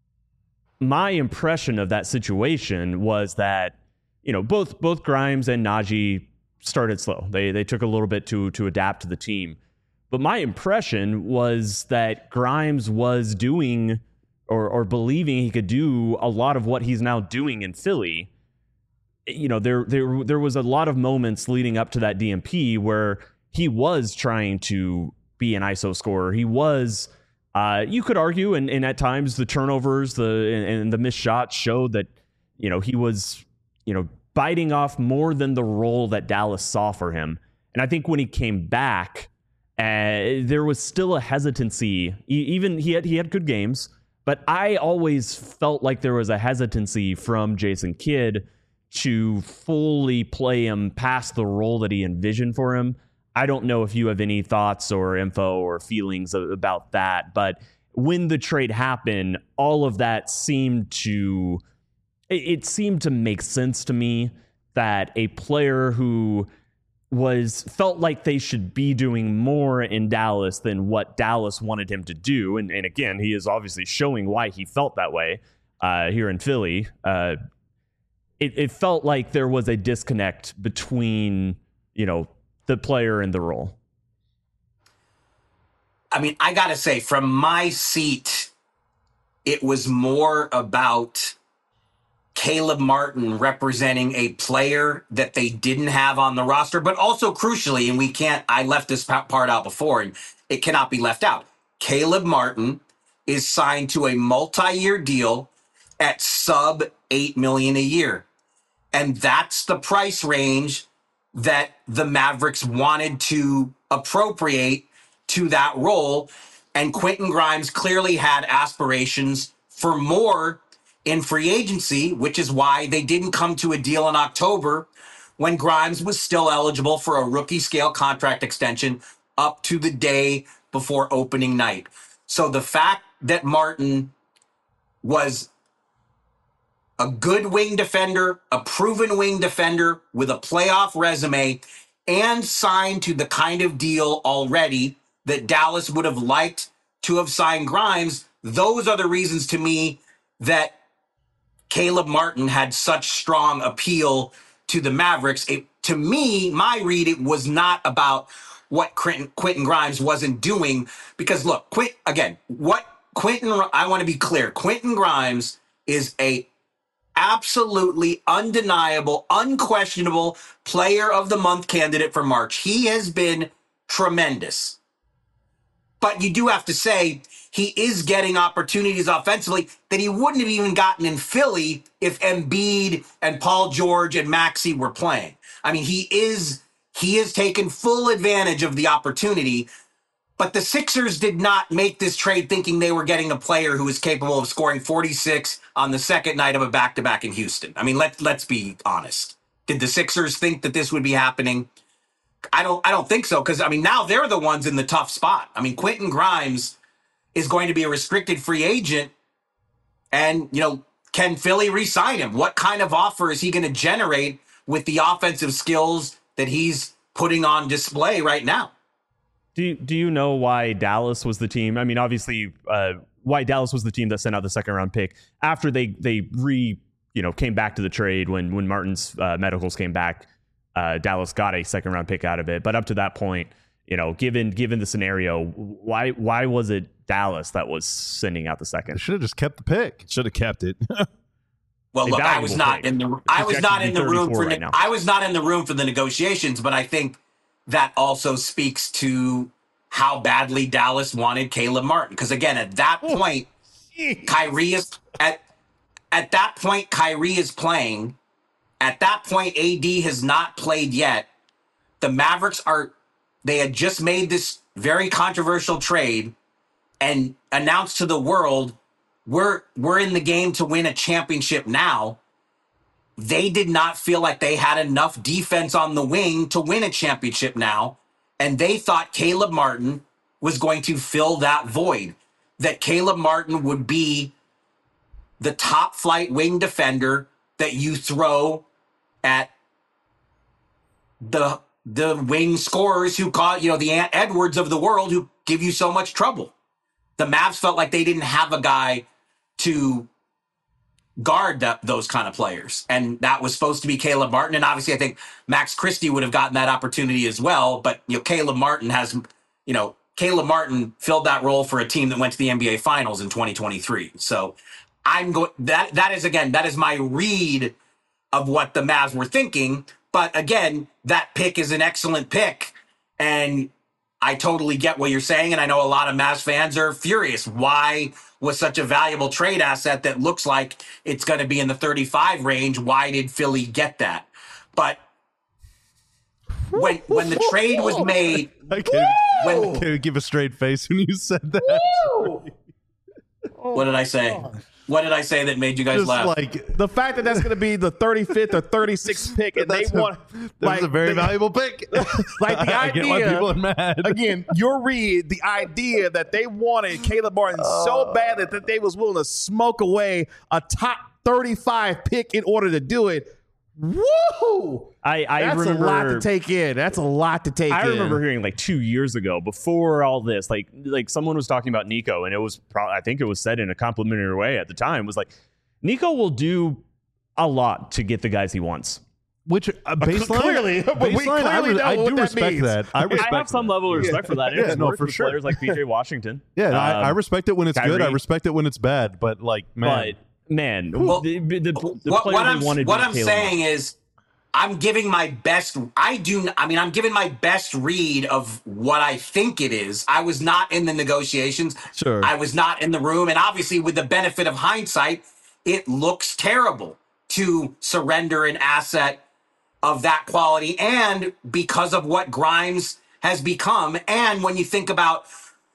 B: my impression of that situation was that, you know, both both Grimes and Najee started slow. They they took a little bit to to adapt to the team. But my impression was that Grimes was doing or or believing he could do a lot of what he's now doing in Philly. You know, there there there was a lot of moments leading up to that D M P where he was trying to be an I S O scorer. He was Uh, you could argue, and, and at times the turnovers, the and, and the missed shots showed that, you know, he was, you know, biting off more than the role that Dallas saw for him. And I think when he came back And there was still a hesitancy. Even he had he had good games, but I always felt like there was a hesitancy from Jason Kidd to fully play him past the role that he envisioned for him. I don't know if you have any thoughts or info or feelings about that, but when the trade happened, all of that seemed to, it seemed to make sense to me that a player who was felt like they should be doing more in Dallas than what Dallas wanted him to do. And, and again, he is obviously showing why he felt that way uh, here in Philly. Uh, it, it felt like there was a disconnect between, you know, the player and the role.
D: I mean, I got to say, from my seat, it was more about Caleb Martin representing a player that they didn't have on the roster, but also crucially, and we can't, I left this part out before, and it cannot be left out. Caleb Martin is signed to a multi-year deal at sub eight million dollars a year. And that's the price range that the Mavericks wanted to appropriate to that role. And Quentin Grimes clearly had aspirations for more in free agency, which is why they didn't come to a deal in October when Grimes was still eligible for a rookie scale contract extension up to the day before opening night. So the fact that Martin was a good wing defender, a proven wing defender with a playoff resume, and signed to the kind of deal already that Dallas would have liked to have signed Grimes, those are the reasons to me that Caleb Martin had such strong appeal to the Mavericks. It, to me, my read, it was not about what Quentin, Quentin Grimes wasn't doing. Because look, Quint, again, what Quentin, I want to be clear, Quentin Grimes is a absolutely undeniable, unquestionable player of the month candidate for March. He has been tremendous. But you do have to say he is getting opportunities offensively that he wouldn't have even gotten in Philly if Embiid and Paul George and Maxey were playing. I mean, he is he has taken full advantage of the opportunity. But the Sixers did not make this trade thinking they were getting a player who is capable of scoring forty-six on the second night of a back-to-back in Houston. I mean, let, let's be honest. Did the Sixers think that this would be happening? I don't I don't think so, because, I mean, now they're the ones in the tough spot. I mean, Quentin Grimes is going to be a restricted free agent, and, you know, can Philly re-sign him? What kind of offer is he going to generate with the offensive skills that he's putting on display right now?
B: Do you, do you know why Dallas was the team? I mean, obviously, uh, why Dallas was the team that sent out the second round pick after they they re you know came back to the trade when when Martin's uh, medicals came back. Uh, Dallas got a second round pick out of it, but up to that point, you know, given given the scenario, why why was it Dallas that was sending out the second?
C: They should have just kept the pick.
A: Should have kept it.
D: Well,
B: A
D: look, I was not
B: pick.
D: in the
B: It's
D: I was
B: projected
D: not
B: to
D: in
B: be
D: the room for
B: right
D: ne-
B: now.
D: I was not in the room for the negotiations, but I think that also speaks to how badly Dallas wanted Caleb Martin. Because again, at that point, Kyrie is at at that point, Kyrie is playing. At that point, A D has not played yet. The Mavericks are they had just made this very controversial trade and announced to the world, we're we're in the game to win a championship now. They did not feel like they had enough defense on the wing to win a championship now. And they thought Caleb Martin was going to fill that void, that Caleb Martin would be the top flight wing defender that you throw at the the wing scorers who call, you know, the Ant Edwards of the world who give you so much trouble. The Mavs felt like they didn't have a guy to guard that, those kind of players. And that was supposed to be Caleb Martin. And obviously I think Max Christie would have gotten that opportunity as well. But, you know, Caleb Martin has, you know, Caleb Martin filled that role for a team that went to the N B A Finals in twenty twenty-three. So I'm going, that, that is, again, that is my read of what the Mavs were thinking. But again, that pick is an excellent pick. And I totally get what you're saying. And I know a lot of Mavs fans are furious. Why was such a valuable trade asset that looks like it's going to be in the thirty-five range? Why did Philly get that? But when when the trade was made,
C: I can't,
D: when,
C: Can you give a straight face when you said that?
D: what did I say? What did I say that made you guys
C: Just
D: laugh?
C: like
A: The fact that that's going to be the thirty-fifth or thirty-sixth pick, and they
C: That's a-
A: want
C: that
A: like
C: was a very
A: the,
C: valuable pick.
A: like the
C: I get why people are
A: idea.
C: mad.
A: Again, your read, the idea that they wanted Caleb Martin so bad that, that they was willing to smoke away a top thirty-five pick in order to do it. Woo!
B: I, I
A: That's
B: remember
A: a lot to take in. That's a lot to take
B: I
A: in.
B: remember hearing like two years ago, before all this, like like someone was talking about Nico, and it was pro- I think it was said in a complimentary way at the time. Was like, Nico will do a lot to get the guys he wants.
C: Which uh, baseline,
A: clearly, but we
C: baseline, I,
A: clearly
C: re-
A: know
C: I
A: what
C: do
A: that
C: respect
A: means.
C: that. I respect
B: I have some
C: that.
B: level of respect for that.
C: Yeah,
B: It's
C: no,
B: worked
C: for
B: with
C: sure.
B: Players like P J Washington.
C: Yeah,
B: Um,
C: I, I respect it when it's good. I
B: Kyrie.
C: respect it when it's bad. But like, man,
B: But man,
D: Well,
B: the, the, the
D: what,
B: player
D: what
B: they
D: I'm
B: wanted
D: what
B: was
D: I'm
B: Caleb
D: saying
B: Martin.
D: is, I'm giving my best. I do. I mean, I'm giving my best read of what I think it is. I was not in the negotiations.
A: Sure.
D: I was not in the room, and obviously, with the benefit of hindsight, it looks terrible to surrender an asset of that quality, and because of what Grimes has become, and when you think about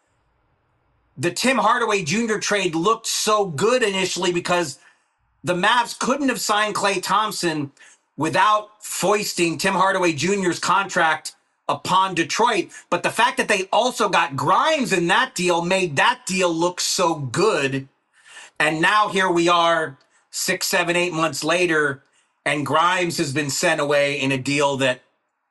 D: the Tim Hardaway Junior trade, looked so good initially because the Mavs couldn't have signed Klay Thompson without foisting Tim Hardaway Junior's contract upon Detroit. But the fact that they also got Grimes in that deal made that deal look so good. And now here we are six, seven, eight months later, and Grimes has been sent away in a deal that,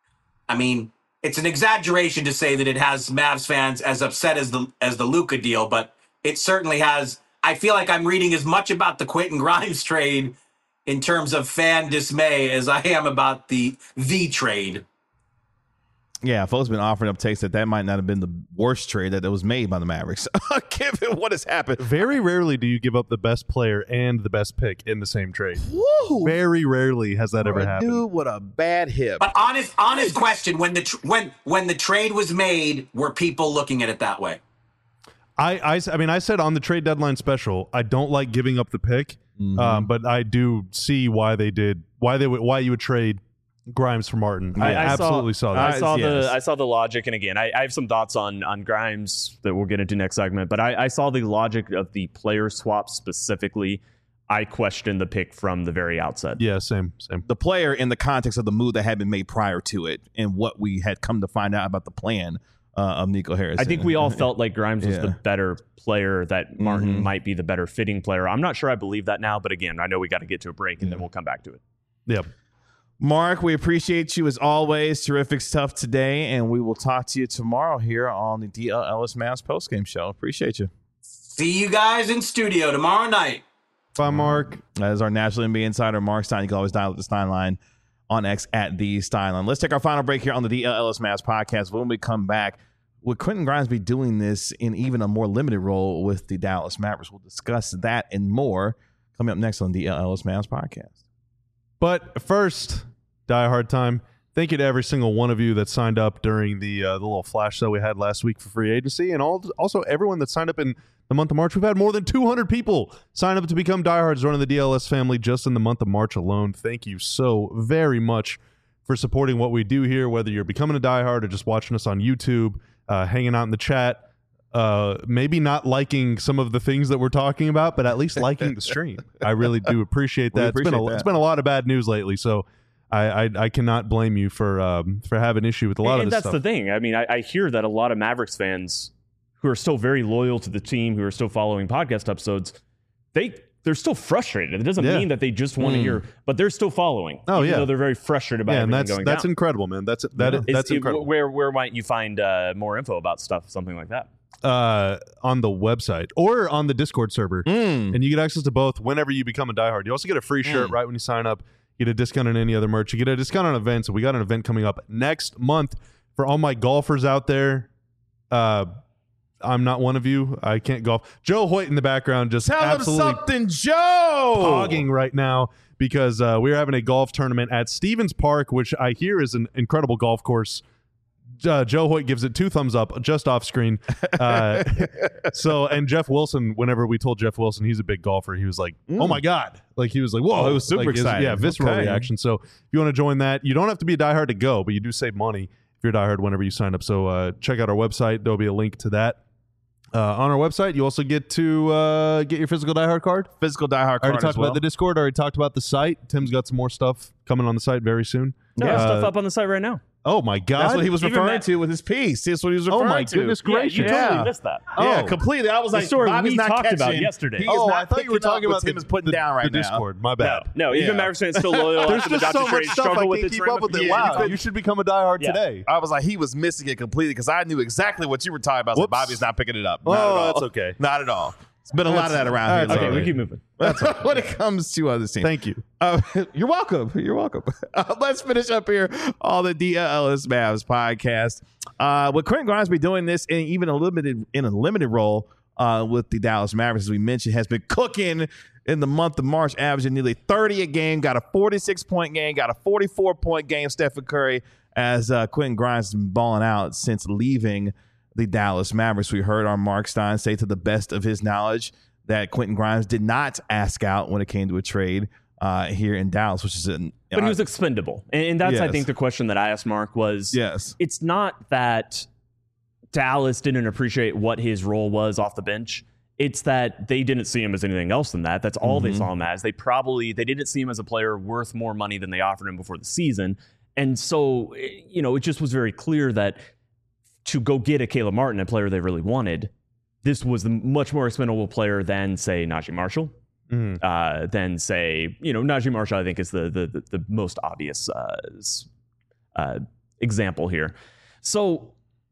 D: I mean, it's an exaggeration to say that it has Mavs fans as upset as the as the Luka deal, but it certainly has. I feel like I'm reading as much about the Quentin Grimes trade in terms of fan dismay as I am about the the trade.
A: Yeah, folks been offering up takes that that might not have been the worst trade that was made by the Mavericks, given what has happened.
C: very rarely do you give up the best player and the best pick in the same trade.
A: Woo!
C: Very rarely has that ever
A: a
C: happened.
A: dude with a bad hip.
D: But honest, honest question: when the tr- when when the trade was made, were people looking at it that way?
C: I, I, I mean, I said on the trade deadline special, I don't like giving up the pick,
A: Mhm.
C: um, but I do see why they did, why they would, why you would trade Grimes for Martin. I,
B: I, I
C: absolutely saw, that.
B: I saw
A: Yes.
B: the I saw the logic, and again, I, I have some thoughts on on Grimes that we'll get into next segment. But I, I saw the logic of the player swap specifically. I questioned the pick from the very outset.
C: Yeah, same, same.
A: The player in the context of the move that had been made prior to it and what we had come to find out about the plan uh, of Nico Harris.
B: I think we all felt like Grimes was
A: Yeah.
B: the better player, that Martin
A: Mhm.
B: might be the better fitting player. I'm not sure I believe that now, but again, I know we got to get to a break and then we'll come back to it.
C: Yeah.
A: Mark, we appreciate you as always. Terrific stuff today, and we will talk to you tomorrow here on the D L Ellis Mavs postgame show. Appreciate you.
D: See you guys in studio tomorrow night.
C: Bye, Mark.
A: That is our National N B A insider, Mark Stein. You can always dial at the Stein line on X at the Stein line. Let's take our final break here on the D L Ellis Mavs podcast. When we come back, would Quentin Grimes be doing this in even a more limited role with the Dallas Mavericks? We'll discuss that and more coming up next on the D L Ellis Mavs podcast.
C: But first, Die Hard time. Thank you to every single one of you that signed up during the uh, the little flash sale we had last week for free agency, and all, also everyone that signed up in the month of March. We've had more than two hundred people sign up to become diehards joining the D L S family just in the month of March alone. Thank you so very much for supporting what we do here, whether you're becoming a diehard or just watching us on YouTube, uh, hanging out in the chat. Uh, maybe not liking some of the things that we're talking about, but at least liking the stream. I really do appreciate
A: We
C: that. it's been a,
A: appreciate that.
C: it's been a lot of bad news lately, so I I, I cannot blame you for um, for having issue with a lot
B: and
C: of this
B: that's
C: stuff.
B: the thing. I mean, I, I hear that a lot of Mavericks fans who are still very loyal to the team, who are still following podcast episodes, they they're still frustrated. It doesn't
C: Yeah.
B: mean that they just want to
A: Mm.
B: hear, but they're still following.
C: Oh,
B: even
C: yeah.
B: though they're very frustrated about
C: yeah, and
B: everything
C: that's
B: going
C: that's
B: down.
C: incredible, man. That's that
A: Yeah.
C: is,
B: Is-
C: that's
B: it-
C: incredible.
B: Where where might you find uh, more info about stuff, something like that?
C: Uh, on the website or on the Discord server,
A: Mm.
C: and you get access to both whenever you become a diehard. You also get a free shirt
A: Mm.
C: right when you sign up. You get a discount on any other merch. You get a discount on events. And we got an event coming up next month for all my golfers out there. Uh, I'm not one of you. I can't golf. Joe Hoyt in the background just
A: Tell him
C: absolutely
A: something, Joe.
C: pogging right now because uh, we're having a golf tournament at Stevens Park, which I hear is an incredible golf course. Uh, Joe Hoyt gives it two thumbs up just off screen. Uh, so, and Jeff Wilson, whenever we told Jeff Wilson he's a big golfer, he was like,
A: Mm.
C: oh my God. Like he was like, whoa.
A: Oh, he was super
C: Like, his-
A: excited.
C: Yeah, visceral
A: Okay.
C: reaction. So if you want to join that, you don't have to be a diehard to go, but you do save money if you're a diehard whenever you sign up. So uh, check out our website. There'll be a link to that. Uh, on our website, you also get to uh, get your physical diehard card.
A: Physical diehard
C: I already
A: card
C: talked
A: as well.
C: about the Discord. I already talked about the site. Tim's got some more stuff coming on the site very soon.
B: No,
C: Uh,
B: stuff up on the site right now.
C: Oh my god!
A: That's what he was
B: Even
A: referring
B: Matt-
A: to with his piece. That's what he was
C: Oh
A: referring
C: my
A: to.
C: goodness
B: Yeah,
C: gracious!
B: you totally
A: Yeah.
B: missed that.
A: Yeah,
C: Oh.
A: completely. I was
B: The
A: like,
B: story
A: Bobby's
B: we
A: not
B: talked about
A: catching.
B: yesterday.
A: He is
C: Oh,
A: not
C: I thought you were
A: picking up
C: talking
A: what
C: about
A: Tim
C: the,
A: is putting
C: the,
A: down right
C: the
A: now.
C: Discord. My
B: No,
C: bad.
B: no.
A: Yeah.
B: Even Mavericks fans still loyal
C: There's
B: after the
C: just so
B: Dodger
C: much
B: trade.
C: stuff I
B: Struggle with
C: can't
B: its
C: keep up with it.
B: ramifications.
C: Wow, you should become a diehard
B: Yeah.
C: today.
A: I was like, he was missing it completely because I knew exactly what you were talking about. I was like,
C: Whoops.
A: Bobby's not picking it up. Not
C: Oh,
A: at all.
C: that's okay.
A: Not at all. It's been a lot of that around
C: That's
A: here.
B: Okay,
C: all
B: we
C: right.
B: keep moving.
A: when it comes to other teams.
C: Thank you.
A: Uh, you're welcome. You're welcome. Uh, let's finish up here on the D L S Mavs podcast. Uh, with Quentin Grimes be doing this in even a limited in a limited role uh, with the Dallas Mavericks, as we mentioned, has been cooking in the month of March, averaging nearly thirty a game. Got a forty-six point game. Got a forty-four point game. Stephen Curry, as uh, Quentin Grimes has been balling out since leaving the Dallas Mavericks. We heard our Mark Stein say to the best of his knowledge that Quentin Grimes did not ask out when it came to a trade uh, here in Dallas, which is an.
B: But he was expendable. And, and that's, I
A: Yes.
B: think, the question that I asked Mark was,
A: yes,
B: it's not that Dallas didn't appreciate what his role was off the bench. It's that they didn't see him as anything else than that. That's all
A: Mm-hmm.
B: they saw him as. They probably, they didn't see him as a player worth more money than they offered him before the season. And so, you know, it just was very clear that to go get a Caleb Martin, a player they really wanted, this was the much more expendable player than, say, Najee Marshall.
C: Mhm.
B: Uh, than say, you know, Najee Marshall, I think, is the the the, the most obvious uh, s- uh, example here. So,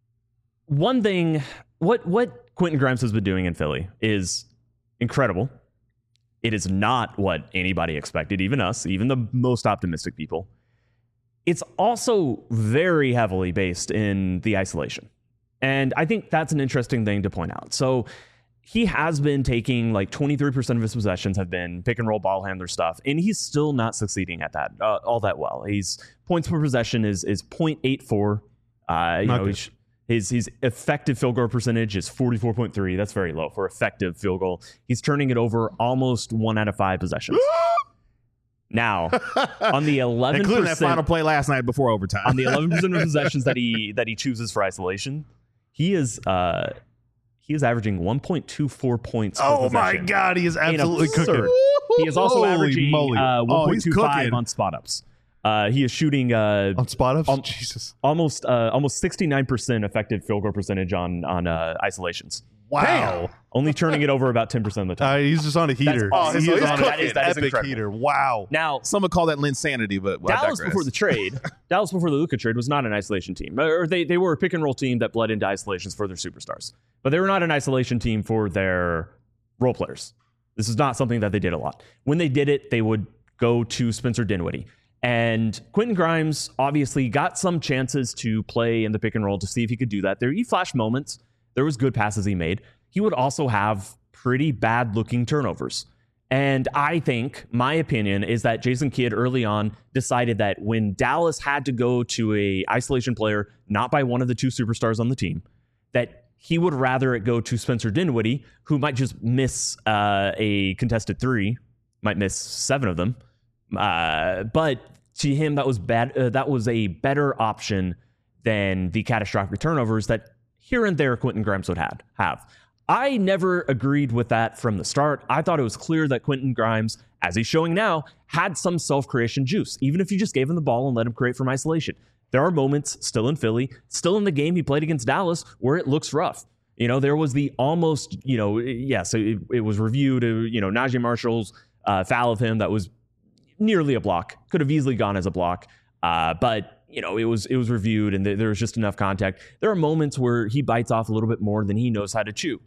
B: one thing, what what Quentin Grimes has been doing in Philly is incredible. It is not what anybody expected, even us, even the most optimistic people. It's also very heavily based in the isolation. And I think that's an interesting thing to point out. So he has been taking like twenty-three percent of his possessions have been pick and roll ball handler stuff, and he's still not succeeding at that uh, all that well. He's points per possession is is point eight four. Uh, you
C: Not
B: know,
C: good.
B: he's, his his effective field goal percentage is forty-four point three. That's very low for effective field goal. He's turning it over almost one out of five possessions. Now, on the eleven
A: including that final
B: percent
A: play last night before overtime.
B: on the eleven percent of possessions that he that he chooses for isolation, he is uh he is averaging one point two four points per
C: Oh my
B: possession.
C: god, he is absolutely
B: absurd.
C: cooking.
B: He is also
C: Holy
B: averaging
C: moly.
B: uh,
A: Oh,
B: one point
A: he's
B: two five
A: cooking.
B: on spot ups. Uh, he is shooting uh,
C: On spot ups?
B: Um,
C: Jesus.
B: almost uh, almost sixty-nine percent effective field goal percentage on on uh, isolations.
C: Wow.
B: Only turning it over about ten percent of the time.
C: Uh, he's just on a heater.
B: awesome.
C: He
A: So
C: is
A: he's
C: on
A: cooking.
C: an
B: That is- that is
C: epic
B: incredible.
C: heater. Wow.
B: Now,
A: Some would call that Linsanity, but well, I
B: Dallas
A: digress.
B: before the trade, Dallas before the Luka trade was not an isolation team, or they they were a pick and roll team that bled into isolations for their superstars, but they were not an isolation team for their role players. This is not something that they did a lot. When they did it, they would go to Spencer Dinwiddie, and Quentin Grimes obviously got some chances to play in the pick and roll to see if he could do that. There, he flashed moments. There was good passes he made. He would also have pretty bad looking turnovers. And I think my opinion is that Jason Kidd early on decided that when Dallas had to go to a isolation player, not by one of the two superstars on the team, that he would rather it go to Spencer Dinwiddie, who might just miss uh, a contested three, might miss seven of them. Uh, but to him, that was bad. Uh, that was a better option than the catastrophic turnovers that here and there Quentin Grimes would have. have. I never agreed with that from the start. I thought it was clear that Quentin Grimes, as he's showing now, had some self-creation juice, even if you just gave him the ball and let him create from isolation. There are moments still in Philly, still in the game he played against Dallas, where it looks rough. You know, there was the almost, you know, yes, it, it was reviewed, uh, you know, Najee Marshall's uh, foul of him that was nearly a block, could have easily gone as a block, uh, but you know, it was it was reviewed and th- there was just enough contact. There are moments where he bites off a little bit more than he knows how to chew.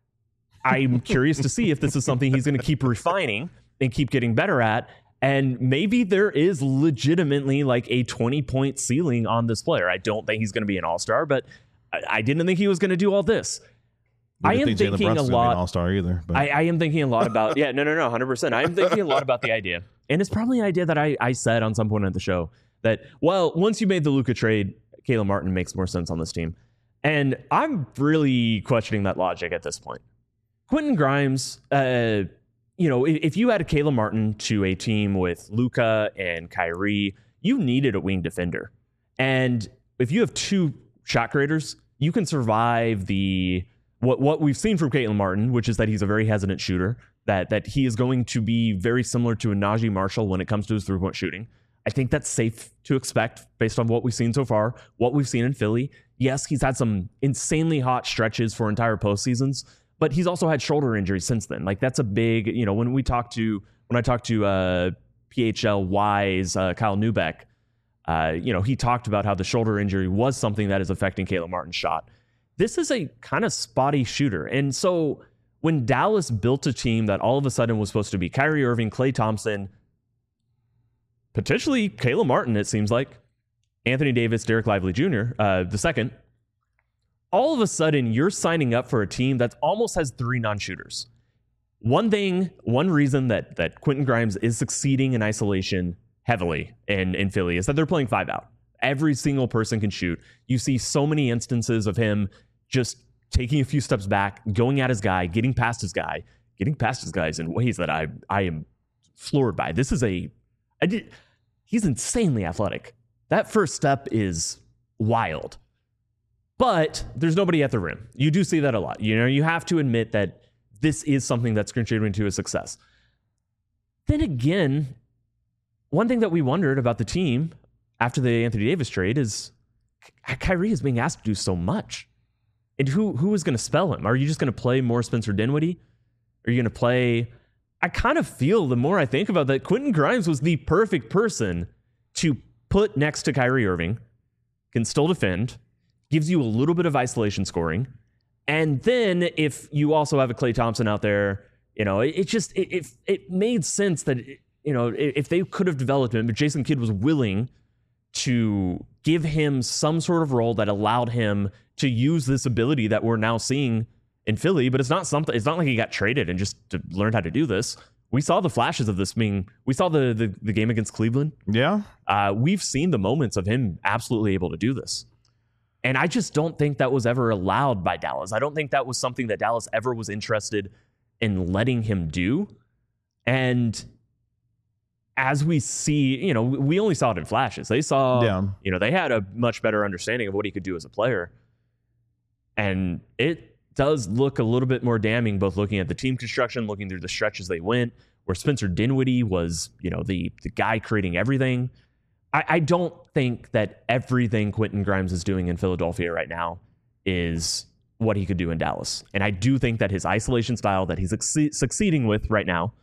B: I'm curious to see if this is something he's going to keep refining and keep getting better at. And maybe there is legitimately like a twenty point ceiling on this player. I don't think he's going to be an all-star, but I, I didn't think he was going to do all this.
A: We
B: I
A: didn't
B: am
A: think Jalen
B: thinking a
A: Brunson's gonna be an
B: lot.
A: all-star either. But
B: I, I am thinking a lot about, yeah, no, no, no, one hundred percent. I am thinking a lot about the idea. And it's probably an idea that I, I said on some point at the show that, well, once you made the Luka trade, Caleb Martin makes more sense on this team. And I'm really questioning that logic at this point. Quentin Grimes, uh, you know, if, if you added Caleb Martin to a team with Luka and Kyrie, you needed a wing defender. And if you have two shot creators, you can survive the what what we've seen from Caitlin Martin, which is that he's a very hesitant shooter, that that he is going to be very similar to a Najee Marshall when it comes to his three-point shooting. I think that's safe to expect based on what we've seen so far, what we've seen in Philly. Yes, he's had some insanely hot stretches for entire postseasons, but he's also had shoulder injuries since then. Like that's a big, you know, when we talk to, when I talked to uh, P H L Y's uh, Kyle Neubeck, uh, you know, he talked about how the shoulder injury was something that is affecting Caitlin Martin's shot. This is a kind of spotty shooter. And so when Dallas built a team that all of a sudden was supposed to be Kyrie Irving, Klay Thompson, potentially Caleb Martin, it seems like, Anthony Davis, Derek Lively Junior, uh, the second, all of a sudden you're signing up for a team that almost has three non-shooters. One thing, one reason that that Quentin Grimes is succeeding in isolation heavily in, in Philly is that they're playing five out. Every single person can shoot. You see so many instances of him just taking a few steps back, going at his guy, getting past his guy, getting past his guys in ways that I I am floored by. This is a, I did, he's insanely athletic. That first step is wild. But there's nobody at the rim. You do see that a lot. You know, you have to admit that this is something that's contributing to his success. Then again, one thing that we wondered about the team after the Anthony Davis trade is Kyrie is being asked to do so much. And who who is going to spell him? Are you just going to play more Spencer Dinwiddie? Are you going to play... I kind of feel, the more I think about that, Quentin Grimes was the perfect person to put next to Kyrie Irving, can still defend, gives you a little bit of isolation scoring. And then if you also have a Klay Thompson out there, you know, it, it just, it, it, it made sense that, you know, if they could have developed him, but Jason Kidd was willing to give him some sort of role that allowed him to use this ability that we're now seeing in Philly. But it's not something, it's not like he got traded and just to learn how to do this. We saw the flashes of this being, we saw the the, the game against Cleveland.
A: Yeah.
B: Uh, we've seen the moments of him absolutely able to do this. And I just don't think that was ever allowed by Dallas. I don't think that was something that Dallas ever was interested in letting him do. And as we see, you know, we only saw it in flashes. They saw,
A: yeah.
B: you know, they had a much better understanding of what he could do as a player. And it does look a little bit more damning, both looking at the team construction, looking through the stretches they went, where Spencer Dinwiddie was, you know, the the guy creating everything. I, I don't think that everything Quentin Grimes is doing in Philadelphia right now is what he could do in Dallas. And I do think that his isolation style that he's succe- succeeding with right now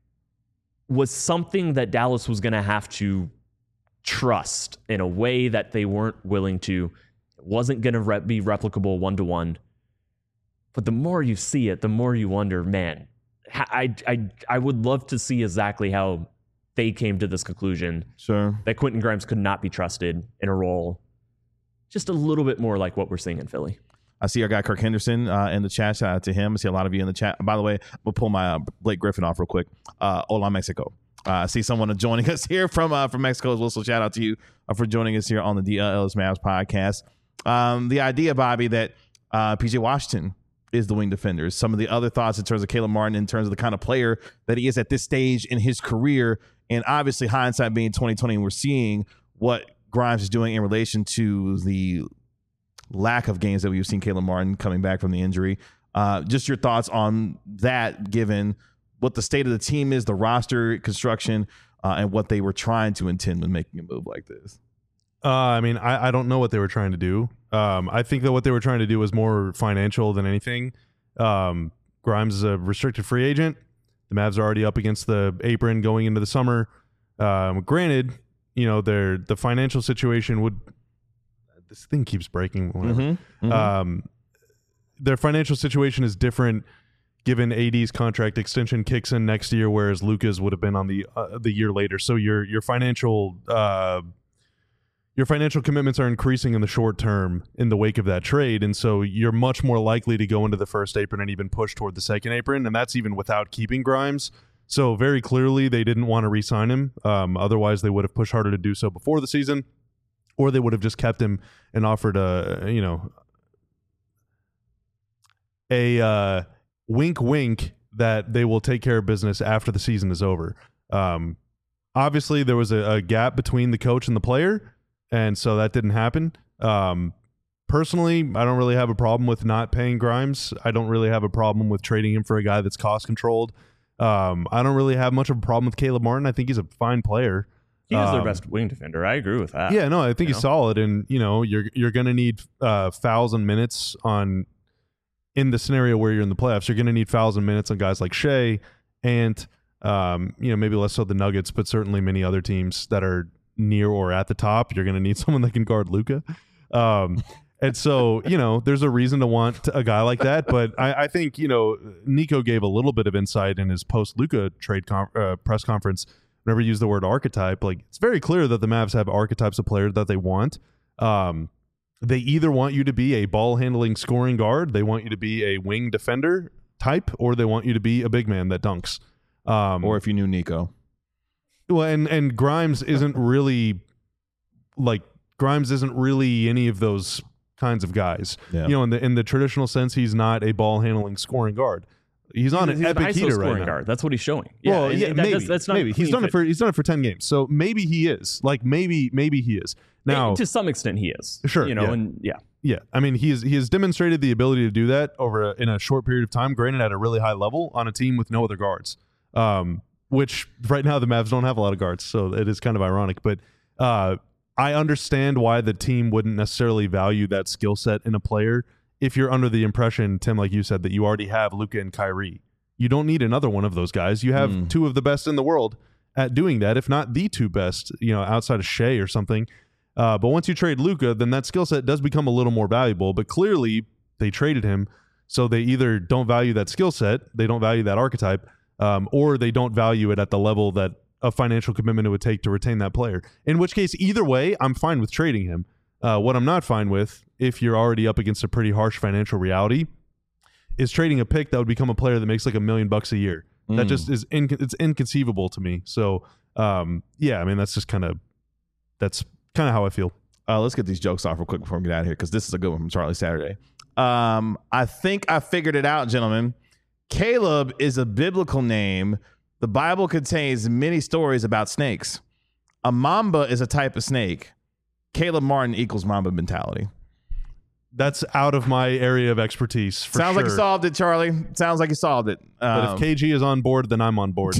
B: was something that Dallas was going to have to trust in a way that they weren't willing to. It wasn't going to re- be replicable one-to-one. But the more you see it, the more you wonder, man, I, I, I would love to see exactly how they came to this conclusion.
A: Sure.
B: That Quentin Grimes could not be trusted in a role just a little bit more like what we're seeing in Philly.
A: I see our guy Kirk Henderson uh, in the chat. Shout out to him. I see a lot of you in the chat. By the way, we'll pull my uh, Blake Griffin off real quick. Uh, Hola, Mexico. Uh, I see someone joining us here from uh, from Mexico as well. So shout out to you uh, for joining us here on the D L L's Mavs podcast. Um, the idea, Bobby, that uh, P J Washington is the wing defender. Some of the other thoughts in terms of Caleb Martin, in terms of the kind of player that he is at this stage in his career, and obviously hindsight being twenty twenty, and we're seeing what Grimes is doing in relation to the lack of games that we've seen Caleb Martin coming back from the injury. Uh, just your thoughts on that, given what the state of the team is, the roster construction, uh, and what they were trying to intend when making a move like this.
C: Uh, I mean, I, I don't know what they were trying to do. Um, I think that what they were trying to do was more financial than anything. Um, Grimes is a restricted free agent. The Mavs are already up against the apron going into the summer. Um, granted, you know, their the financial situation would. This thing keeps breaking.
A: Mm-hmm, mm-hmm.
C: Um, their financial situation is different, given A D's contract extension kicks in next year, whereas Luka's would have been on the uh, the year later. So your your financial uh, your financial commitments are increasing in the short term in the wake of that trade, and so you're much more likely to go into the first apron and even push toward the second apron, and that's even without keeping Grimes. So very clearly they didn't want to re-sign him. Um, otherwise, they would have pushed harder to do so before the season. Or they would have just kept him and offered a, you know, a uh, wink, wink that they will take care of business after the season is over. Um, obviously, there was a, a gap between the coach and the player, and so that didn't happen. Um, personally, I don't really have a problem with not paying Grimes. I don't really have a problem with trading him for a guy that's cost controlled. Um, I don't really have much of a problem with Caleb Martin. I think he's a fine player.
B: He is
C: um,
B: their best wing defender. I agree with that.
C: Yeah, no, I think
B: You
C: he's
B: know?
C: solid, and you know, you're you're going to need uh, fouls and minutes on in the scenario where you're in the playoffs. You're going to need fouls and minutes on guys like Shea and um, you know, maybe less so the Nuggets, but certainly many other teams that are near or at the top. You're going to need someone that can guard Luka. Um, and so, you know, there's a reason to want a guy like that. But I, I think, you know, Nico gave a little bit of insight in his post-Luka trade com- uh, press conference. Whenever you use the word archetype, like it's very clear that the Mavs have archetypes of players that they want. Um, they either want you to be a ball-handling scoring guard, they want you to be a wing defender type, or they want you to be a big man that dunks. Um,
A: Or if you knew Nico.
C: Well, and and Grimes isn't really like Grimes isn't really any of those kinds of guys.
A: Yeah.
C: You know, in the in the traditional sense, he's not a ball handling scoring guard. He's on
B: He's
C: an
B: an
C: epic
B: I S O
C: heater
B: scoring
C: right now.
B: guard. That's what he's showing. Yeah,
C: well,
B: and
C: yeah,
B: that-
C: maybe.
B: that's, that's not
C: maybe he's
B: clean
C: done it
B: fit.
C: for he's done it for ten games. So maybe he is. Like maybe maybe he is. Now,
B: to some extent, he is.
C: Sure,
B: you know,
C: yeah.
B: and yeah,
C: yeah, I mean, he has he has demonstrated the ability to do that over a, in a short period of time. Granted, at a really high level on a team with no other guards. Um, which right now the Mavs don't have a lot of guards, so it is kind of ironic. But uh, I understand why the team wouldn't necessarily value that skill set in a player if you're under the impression, Tim, like you said, that you already have Luka and Kyrie. You don't need another one of those guys. You have
A: Mm.
C: two of the best in the world at doing that, if not the two best, you know, outside of Shea or something. Uh, but once you trade Luka, then that skill set does become a little more valuable. But clearly, they traded him, so they either don't value that skill set, they don't value that archetype, um, or they don't value it at the level that a financial commitment it would take to retain that player. In which case, either way, I'm fine with trading him. Uh, what I'm not fine with, if you're already up against a pretty harsh financial reality, is trading a pick that would become a player that makes like a million bucks a year. That
A: Mm.
C: just is inc- it's inconceivable to me. So um, yeah, I mean that's just kind of that's kind of how I feel.
A: Uh, let's get these jokes off real quick before we get out of here, because this is a good one from Charlie Saturday. Um, I think I figured it out, gentlemen. Caleb is a biblical name. The Bible contains many stories about snakes. A mamba is a type of snake. Caleb Martin equals mamba mentality.
C: That's out of my area of expertise. For
A: Sounds
C: sure.
A: like you solved it, Charlie. Sounds like you solved it.
C: But
A: Um,
C: if K G is on board, then I'm on board.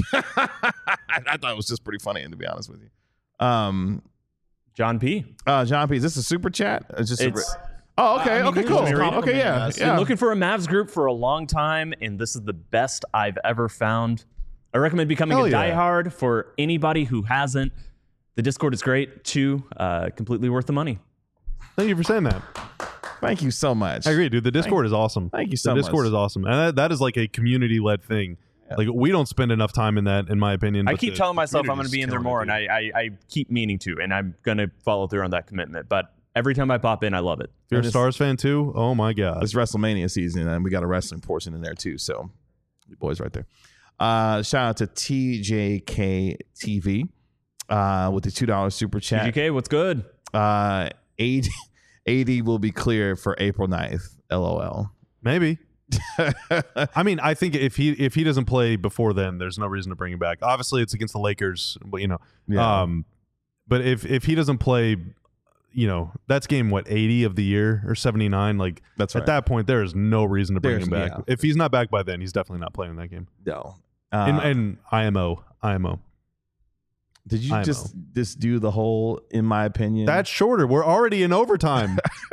A: I thought it was just pretty funny, to be honest with you. Um,
B: John P.
A: uh, John P, is this a super chat? It's just
B: It's-
A: a, oh, okay,
E: I mean,
A: okay,
E: you
A: cool.
E: just read it.
A: Okay, yeah,
E: Been
A: yeah.
B: Been looking for a Mavs group for a long time, and this is the best I've ever found. I recommend becoming
C: Hell
B: a
C: yeah.
B: diehard for anybody who hasn't. The Discord is great. Two, uh, completely worth the money.
C: Thank you for saying that.
A: Thank you so much.
C: I agree, dude. The Discord is awesome.
A: Thank you so
C: The Discord
A: much.
C: is awesome, and that, that is like a community-led thing. Like we don't spend enough time in that, in my opinion.
B: I
C: but
B: keep
C: the-
B: telling
C: the
B: myself I'm
C: community
B: going to
C: is
B: be in there
C: killing
B: more,
C: it,
B: and
C: dude.
B: I, I, I keep meaning to, and I'm going to follow through on that commitment. But every time I pop in, I love it.
C: If you're
A: And
C: a
A: it's-
C: Stars fan too, oh my god.
A: It's WrestleMania season, and we got a wrestling portion in there too. So, you boys right there. Uh, shout out to T J K T V uh, with the two dollar super chat.
B: T G K, what's good?
A: Uh, A D, A D will be clear for April ninth. LOL.
C: Maybe. I mean, I think if he if he doesn't play before then, there's no reason to bring him back. Obviously, it's against the Lakers, but you know,
A: Yeah.
C: um, but if if he doesn't play, you know, that's game what eighty of the year or seventy-nine. Like
A: That's
C: at
A: right.
C: that point, there is no reason to bring
A: There's-
C: him back.
A: yeah.
C: If he's not back by then, he's definitely not playing that game.
A: No.
C: And,
A: Uh,
C: and I M O, I M O.
A: did you
C: I M O.
A: just just do the whole, in my opinion?
C: That's shorter. We're already in overtime.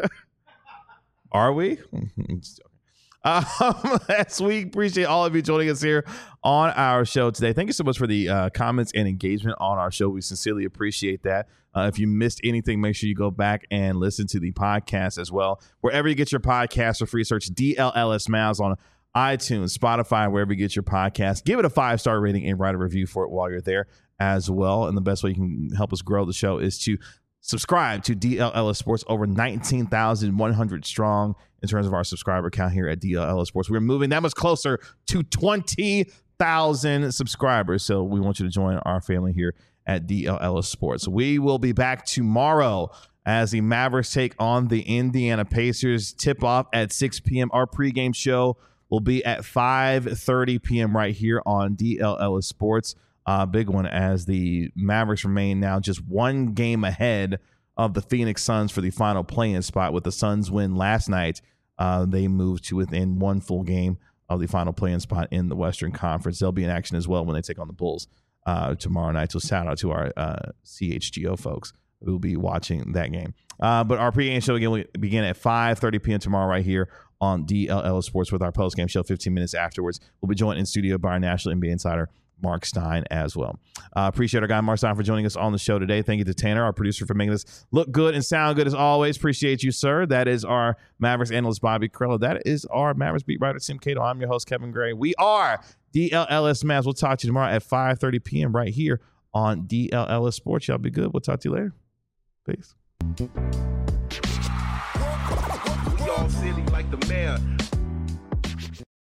A: Are we? Just joking. Um, as we appreciate all of you joining us here on our show today. Thank you so much for the uh, comments and engagement on our show. We sincerely appreciate that. Uh, if you missed anything, make sure you go back and listen to the podcast as well. Wherever you get your podcasts for free, search D L L S Mavs on iTunes, Spotify, wherever you get your podcast. Give it a five-star rating and write a review for it while you're there as well. And the best way you can help us grow the show is to subscribe to D L L S Sports, over nineteen thousand one hundred strong in terms of our subscriber count here at D L L S Sports. We're moving that much closer to twenty thousand subscribers. So we want you to join our family here at D L L S Sports. We will be back tomorrow as the Mavericks take on the Indiana Pacers. Tip off at six p.m. Our pregame show will be at five thirty p.m. right here on D L L S Sports. Uh, big one as the Mavericks remain now just one game ahead of the Phoenix Suns for the final play-in spot. With the Suns win last night, uh, they moved to within one full game of the final play-in spot in the Western Conference. They'll be in action as well when they take on the Bulls uh, tomorrow night. So shout out to our uh, C H G O folks who will be watching that game. Uh, but our pregame show again will begin at five thirty p.m. tomorrow right here on D L L Sports with our postgame show fifteen minutes afterwards. We'll be joined in studio by our National N B A insider, Mark Stein, as well. Uh, appreciate our guy, Mark Stein, for joining us on the show today. Thank you to Tanner, our producer, for making this look good and sound good as always. Appreciate you, sir. That is our Mavericks analyst, Bobby Carrillo. That is our Mavericks beat writer, Tim Cato. I'm your host, Kevin Gray. We are D L L S Mavs. We'll talk to you tomorrow at five thirty p.m. right here on D L L S Sports. Y'all be good. We'll talk to you later. Peace.
E: We all silly like the mayor.